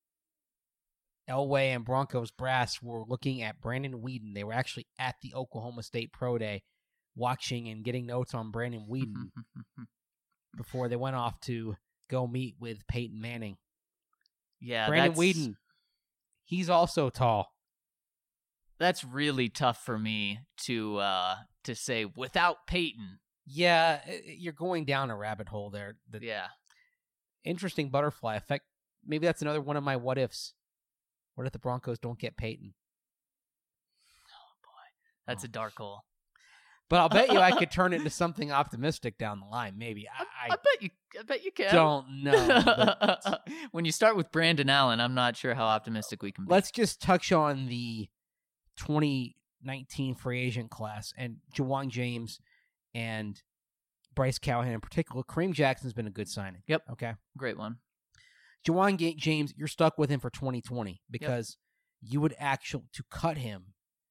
Elway and Broncos brass were looking at Brandon Weeden. They were actually at the Oklahoma State Pro Day watching and getting notes on Brandon Weeden before they went off to go meet with Peyton Manning. Yeah, Brandon that's, Weeden, he's also tall. That's really tough for me to uh, to say without Peyton. Yeah, you're going down a rabbit hole there. The Yeah. interesting butterfly effect. Maybe that's another one of my what ifs. What if the Broncos don't get Peyton? That's Oh. a dark hole. But I'll bet you I could turn it into something optimistic down the line. Maybe. I, I, I bet you. I bet you can. don't know. But When you start with Brandon Allen, I'm not sure how optimistic we can be. let's just touch on the twenty nineteen free agent class and Ja'Wuan James and Bryce Callahan in particular. Kareem Jackson's been a good signing. Yep. Okay. Great one. Ja'Wuan Ga- James, you're stuck with him for twenty twenty because you would actually, to cut him,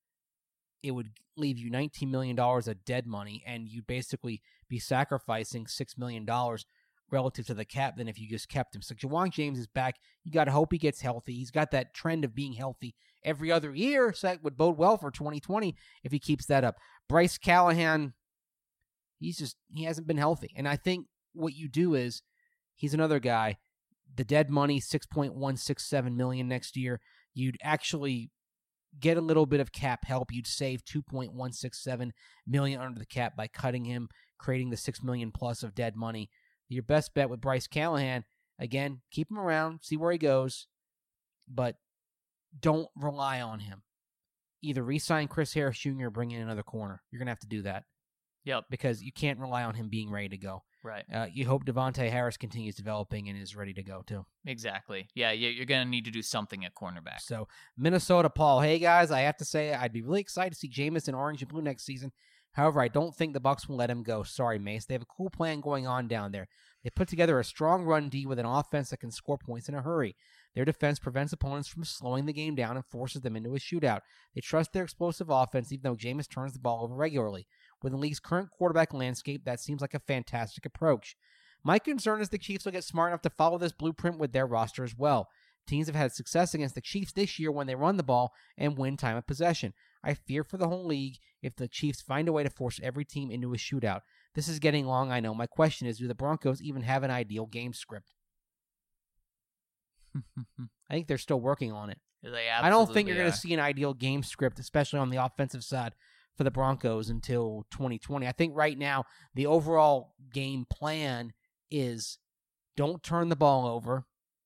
it would leave you nineteen million dollars of dead money, and you'd basically be sacrificing six million dollars relative to the cap than if you just kept him. So Ja'Wuan James is back. You got to hope he gets healthy. He's got that trend of being healthy every other year, so that would bode well for twenty twenty if he keeps that up. Bryce Callahan, he's just, he hasn't been healthy. And I think what you do is, he's another guy, the dead money, six point one six seven million dollars next year. You'd actually get a little bit of cap help. You'd save two point one six seven million dollars under the cap by cutting him, creating the six million dollars plus of dead money. Your best bet with Bryce Callahan, again, keep him around, see where he goes, but don't rely on him. Either re-sign Chris Harris Junior or bring in another corner. You're going to have to do that Yep. because you can't rely on him being ready to go. Right. Uh, you hope Devontae Harris continues developing and is ready to go, too. Exactly. Yeah, you- you're going to need to do something at cornerback. So, Minnesota, Paul. Hey, guys, I have to say I'd be really excited to see Jameis in orange and blue next season. However, I don't think the Bucs will let him go. Sorry, Mace. They have a cool plan going on down there. They put together a strong run D with an offense that can score points in a hurry. Their defense prevents opponents from slowing the game down and forces them into a shootout. They trust their explosive offense, even though Jameis turns the ball over regularly. With the league's current quarterback landscape, that seems like a fantastic approach. My concern is the Chiefs will get smart enough to follow this blueprint with their roster as well. Teams have had success against the Chiefs this year when they run the ball and win time of possession. I fear for the whole league if the Chiefs find a way to force every team into a shootout. This is getting long, I know. My question is, do the Broncos even have an ideal game script? I think they're still working on it. They I don't think you're absolutely going are. to see an ideal game script, especially on the offensive side for the Broncos until twenty twenty. I think right now the overall game plan is don't turn the ball over,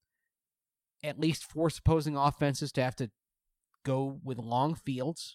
at least force opposing offenses to have to go with long fields.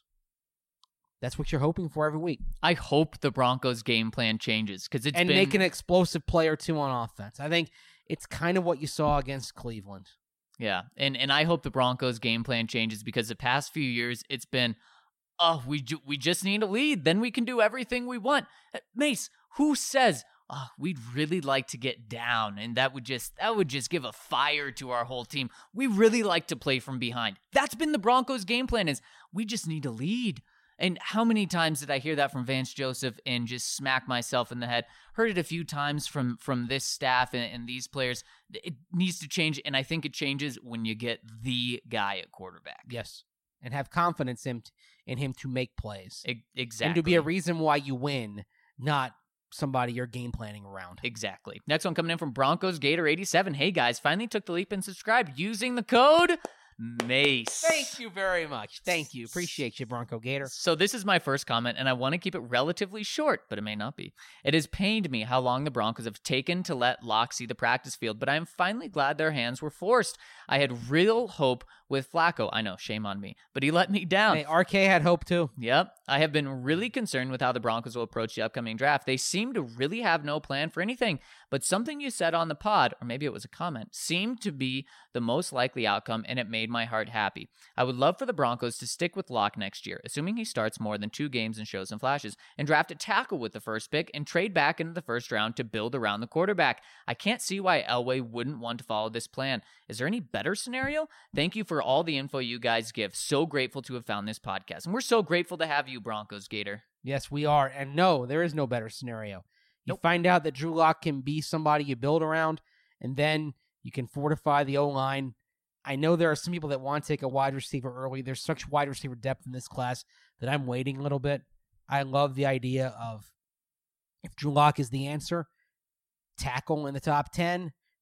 That's what you're hoping for every week. I hope the Broncos game plan changes because it's and been make an explosive play or two on offense. I think it's kind of what you saw against Cleveland. yeah, and and I hope the Broncos game plan changes because the past few years it's been, oh, we ju- we just need a lead, then we can do everything we want. Uh, Mace, who says, oh, we'd really like to get down, and that would just that would just give a fire to our whole team. We really like to play from behind. That's been the Broncos game plan, is we just need a lead. And how many times did I hear that from Vance Joseph and just smack myself in the head? Heard it a few times from from this staff and, and these players. It needs to change, and I think it changes when you get the guy at quarterback. Yes. And have confidence in, in him to make plays. E- exactly. And to be a reason why you win, not somebody you're game planning around. Exactly. Next one coming in from Broncos Gator eighty-seven. Hey guys, finally took the leap and subscribed using the code Mace. Thank you very much. Thank you. Appreciate you, Bronco Gator. So this is my first comment, and I want to keep it relatively short, but it may not be. It has pained me how long the Broncos have taken to let Locke see the practice field, but I am finally glad their hands were forced. I had real hope with Flacco. I know, shame on me, but he let me down. Hey, R K had hope too. Yep. I have been really concerned with how the Broncos will approach the upcoming draft. They seem to really have no plan for anything, but something you said on the pod, or maybe it was a comment, seemed to be the most likely outcome, and it made my heart happy. I would love for the Broncos to stick with Locke next year, assuming he starts more than two games and shows some flashes, and draft a tackle with the first pick and trade back into the first round to build around the quarterback. I can't see why Elway wouldn't want to follow this plan. Is there any better scenario? Thank you for all the info you guys give. So grateful to have found this podcast. And we're so grateful to have you, Broncos Gator. Yes, we are. And no, there is no better scenario. You Nope. find out that Drew Lock can be somebody you build around, and then you can fortify the O-line. I know there are some people that want to take a wide receiver early. There's such wide receiver depth in this class that I'm waiting a little bit. I love the idea of if Drew Lock is the answer, tackle in the top ten,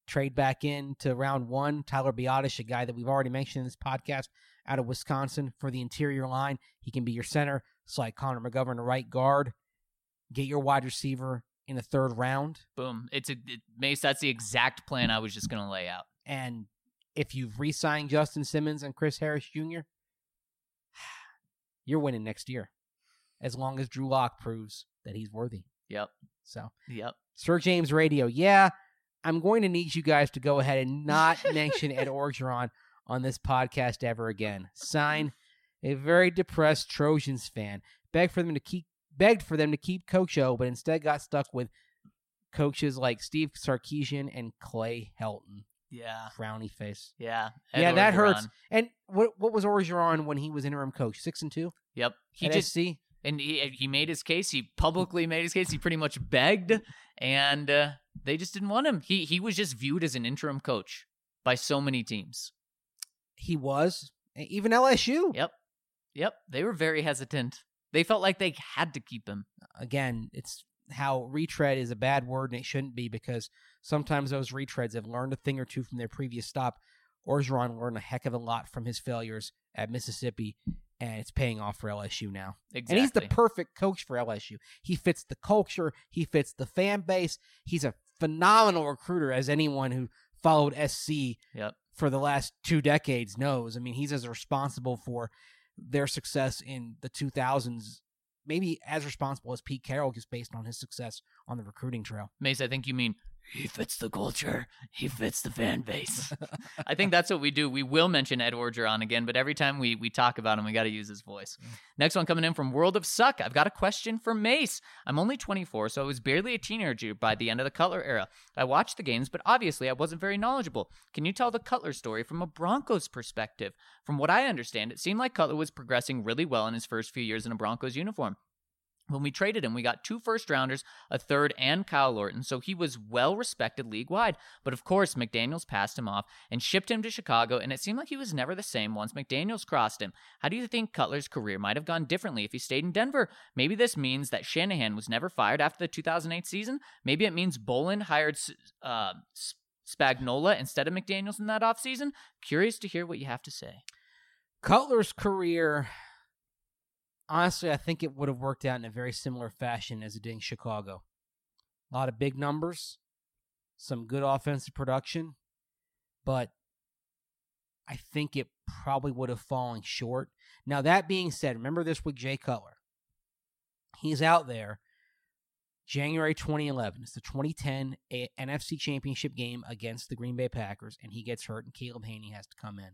trade back in to round one. Tyler Biotish, a guy that we've already mentioned in this podcast, out of Wisconsin for the interior line. He can be your center. Slide Connor McGovern to right guard. Get your wide receiver in the third round. Boom. It's a it, Mace. That's the exact plan I was just going to lay out. And if you've re-signed Justin Simmons and Chris Harris Junior, you're winning next year, as long as Drew Lock proves that he's worthy. Yep. So, yep. Sir James Radio. Yeah, I'm going to need you guys to go ahead and not mention Ed Orgeron on this podcast ever again. Sign, a very depressed Trojans fan. Begged for them to keep begged for them to keep Coach O, but instead got stuck with coaches like Steve Sarkisian and Clay Helton. Yeah. Frowny face. Yeah. Ed yeah, that Orgeron. hurts. And what what was Orgeron when he was interim coach? Six and two? Yep. He At just S C? And he he made his case. He publicly made his case. He pretty much begged, and uh, they just didn't want him. He he was just viewed as an interim coach by so many teams. He was. Even L S U. Yep. Yep. They were very hesitant. They felt like they had to keep him. Again, it's how retread is a bad word, and it shouldn't be, because sometimes those retreads have learned a thing or two from their previous stop. Orgeron learned a heck of a lot from his failures at Mississippi, and it's paying off for L S U now. Exactly. And he's the perfect coach for L S U. He fits the culture. He fits the fan base. He's a phenomenal recruiter, as anyone who followed S C Yep. for the last two decades knows. I mean, he's as responsible for their success in the two thousands, maybe as responsible as Pete Carroll, just based on his success on the recruiting trail. Mace, I think you mean he fits the culture. He fits the fan base. I think that's what we do. We will mention Ed Orgeron again, but every time we we talk about him, we got to use his voice. Mm. Next one coming in from World of Suck. I've got a question for Mace. I'm only twenty-four, so I was barely a teenager by the end of the Cutler era. I watched the games, but obviously I wasn't very knowledgeable. Can you tell the Cutler story from a Broncos perspective? From what I understand, it seemed like Cutler was progressing really well in his first few years in a Broncos uniform. When we traded him, we got two first-rounders, a third, and Kyle Lorton, so he was well-respected league-wide. But of course, McDaniels passed him off and shipped him to Chicago, and it seemed like he was never the same once McDaniels crossed him. How do you think Cutler's career might have gone differently if he stayed in Denver? Maybe this means that Shanahan was never fired after the two thousand eight season? Maybe it means Bolin hired uh, Spagnuolo instead of McDaniels in that offseason? Curious to hear what you have to say. Cutler's career... Honestly, I think it would have worked out in a very similar fashion as it did in Chicago. A lot of big numbers, some good offensive production, but I think it probably would have fallen short. Now, that being said, remember this with Jay Cutler. He's out there January twenty eleven. It's the twenty ten N F C Championship game against the Green Bay Packers, and he gets hurt, and Caleb Haney has to come in.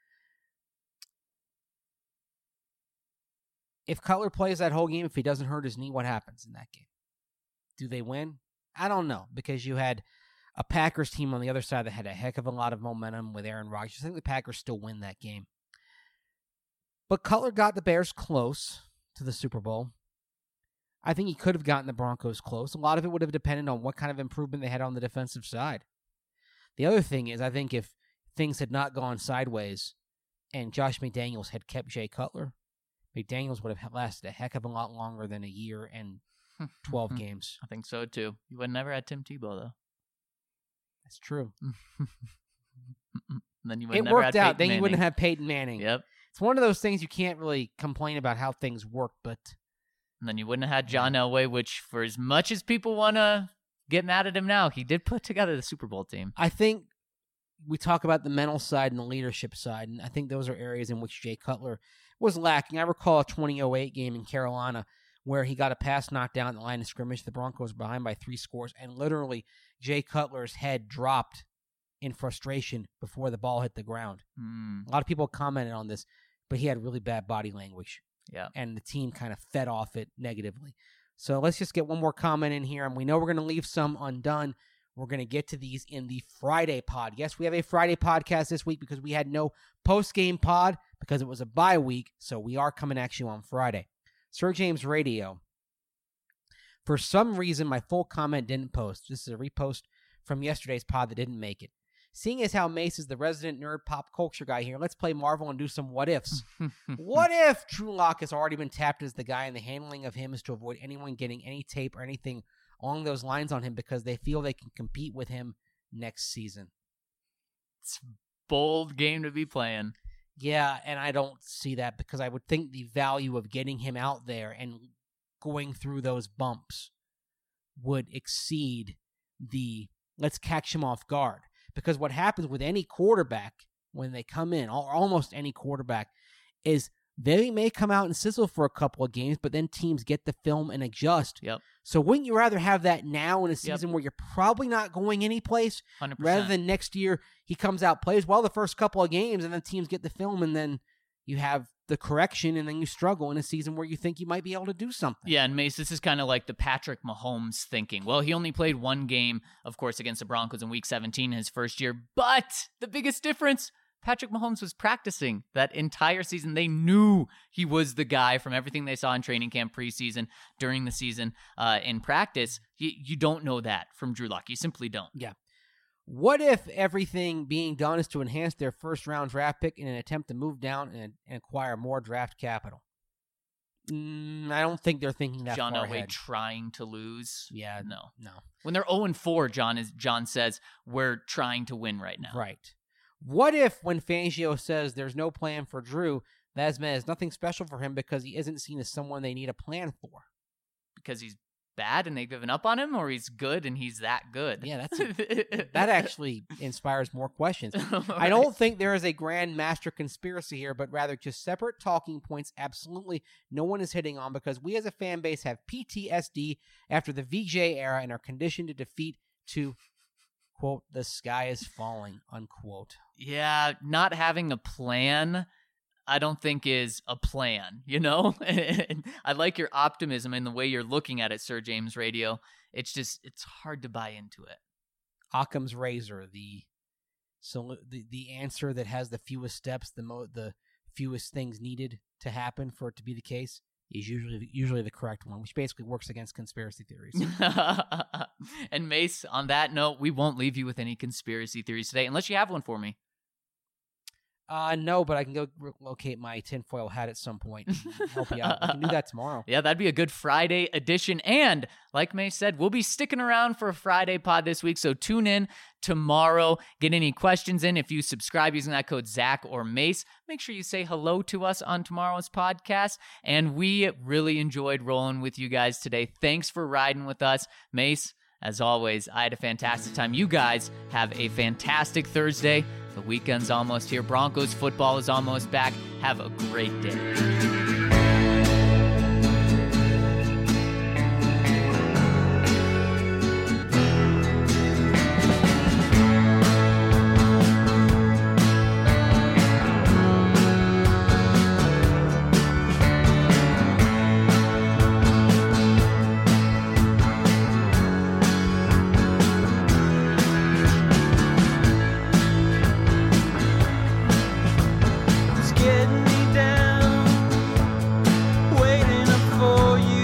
If Cutler plays that whole game, if he doesn't hurt his knee, what happens in that game? Do they win? I don't know, because you had a Packers team on the other side that had a heck of a lot of momentum with Aaron Rodgers. I think the Packers still win that game. But Cutler got the Bears close to the Super Bowl. I think he could have gotten the Broncos close. A lot of it would have depended on what kind of improvement they had on the defensive side. The other thing is, I think if things had not gone sideways and Josh McDaniels had kept Jay Cutler, McDaniels would have lasted a heck of a lot longer than a year and twelve games. I think so, too. You would have never had Tim Tebow, though. That's true. Then you would it never worked had out. Peyton Then Manning. you wouldn't have Peyton Manning. Yep. It's one of those things you can't really complain about how things work, but... And then you wouldn't have had John Elway, which, for as much as people want to get mad at him now, he did put together the Super Bowl team. I think we talk about the mental side and the leadership side, and I think those are areas in which Jay Cutler was lacking. I recall a twenty oh eight game in Carolina where he got a pass knocked down at the line of scrimmage. The Broncos were behind by three scores, and literally Jay Cutler's head dropped in frustration before the ball hit the ground. Mm. A lot of people commented on this, but he had really bad body language. Yeah. And the team kind of fed off it negatively. So let's just get one more comment in here, and we know we're going to leave some undone. We're going to get to these in the Friday pod. Yes, we have a Friday podcast this week because we had no post-game pod because it was a bye week, so we are coming at you on Friday. Sir James Radio. For some reason, my full comment didn't post. This is a repost from yesterday's pod that didn't make it. Seeing as how Mace is the resident nerd pop culture guy here, let's play Marvel and do some what-ifs. What if Drew Lock has already been tapped as the guy, and the handling of him is to avoid anyone getting any tape or anything along those lines on him because they feel they can compete with him next season. It's a bold game to be playing. Yeah, and I don't see that because I would think the value of getting him out there and going through those bumps would exceed the let's catch him off guard. Because what happens with any quarterback when they come in, or almost any quarterback, is they may come out and sizzle for a couple of games, but then teams get the film and adjust. Yep. So wouldn't you rather have that now in a season Yep. where you're probably not going anyplace, one hundred percent. rather than next year he comes out, plays well the first couple of games, and then teams get the film, and then you have the correction, and then you struggle in a season where you think you might be able to do something. Yeah, and Mace, this is kind of like the Patrick Mahomes thinking. Well, he only played one game, of course, against the Broncos in Week seventeen his first year, but the biggest difference, Patrick Mahomes was practicing that entire season. They knew he was the guy from everything they saw in training camp, preseason, during the season, uh, in practice. You, you don't know that from Drew Lock. You simply don't. Yeah. What if everything being done is to enhance their first-round draft pick in an attempt to move down and, and acquire more draft capital? Mm, I don't think they're thinking that John far Elway ahead. trying to lose. Yeah, No. no. When they're oh and four, John is John says, we're trying to win right now. Right. What if when Fangio says there's no plan for Drew, that means nothing special for him because he isn't seen as someone they need a plan for? Because he's bad and they've given up on him, or he's good and he's that good? Yeah, that's a, that actually inspires more questions. I Right. don't think there is a grand master conspiracy here, but rather just separate talking points absolutely no one is hitting on because we as a fan base have P T S D after the V J era and are conditioned to defeat to, quote, the sky is falling, unquote. Yeah, not having a plan, I don't think is a plan, you know? And I like your optimism and the way you're looking at it, Sir James Radio. It's just, it's hard to buy into it. Occam's razor, the so the, the answer that has the fewest steps, the mo- the fewest things needed to happen for it to be the case, is usually usually the correct one, which basically works against conspiracy theories. And Mace, on that note, we won't leave you with any conspiracy theories today, unless you have one for me. Uh, no, but I can go re- locate my tinfoil hat at some point and help you out. I can do that tomorrow. Yeah, that'd be a good Friday edition. And like May said, we'll be sticking around for a Friday pod this week. So tune in tomorrow. Get any questions in. If you subscribe using that code Zach or Mace, make sure you say hello to us on tomorrow's podcast. And we really enjoyed rolling with you guys today. Thanks for riding with us. Mace, as always, I had a fantastic time. You guys have a fantastic Thursday. The weekend's almost here. Broncos football is almost back. Have a great day. It's getting me down, waiting up for you.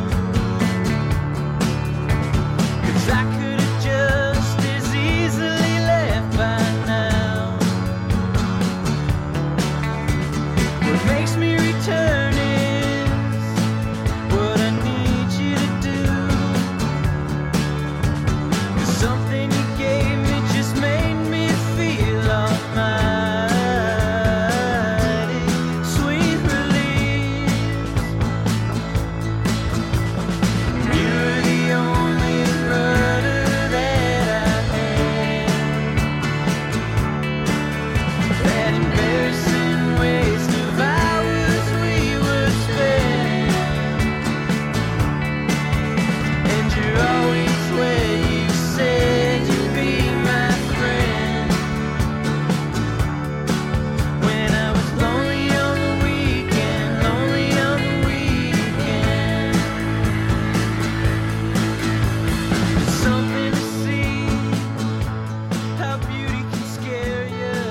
'Cause I could have just as easily left by now. What makes me return is what I need you to do. 'Cause something you gave me just made me feel almighty. Sweet release. You're the only rudder that I had. That embarrassing waste of hours we would spend. And you're always where you said you'd be my friend. When I was lonely on the weekend, lonely on the weekend. It's something to see how beauty can scare you.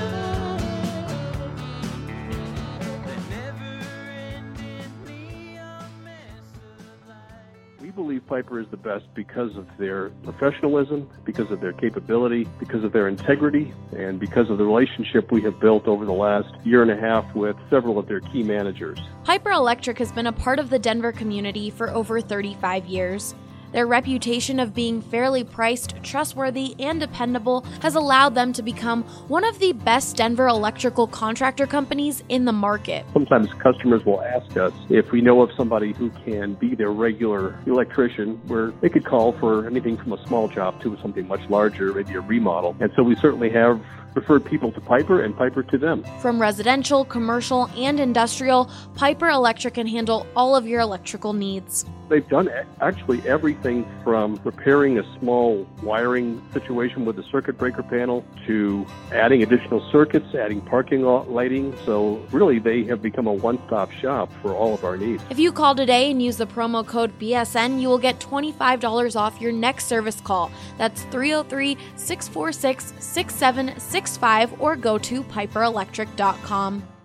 The never-ending neon mess of life. We believe Piper is the best because of their professionalism, because of their capability, because of their integrity, and because of the relationship we have built over the last year and a half with several of their key managers. Piper Electric has been a part of the Denver community for over thirty-five years. Their reputation of being fairly priced, trustworthy, and dependable has allowed them to become one of the best Denver electrical contractor companies in the market. Sometimes customers will ask us if we know of somebody who can be their regular electrician, where they could call for anything from a small job to something much larger, maybe a remodel. And so we certainly have referred people to Piper and Piper to them. From residential, commercial, and industrial, Piper Electric can handle all of your electrical needs. They've done actually everything from repairing a small wiring situation with the circuit breaker panel to adding additional circuits, adding parking lot lighting. So really, they have become a one-stop shop for all of our needs. If you call today and use the promo code B S N, you will get twenty-five dollars off your next service call. That's three oh three, six four six, six seven six five or go to piper electric dot com.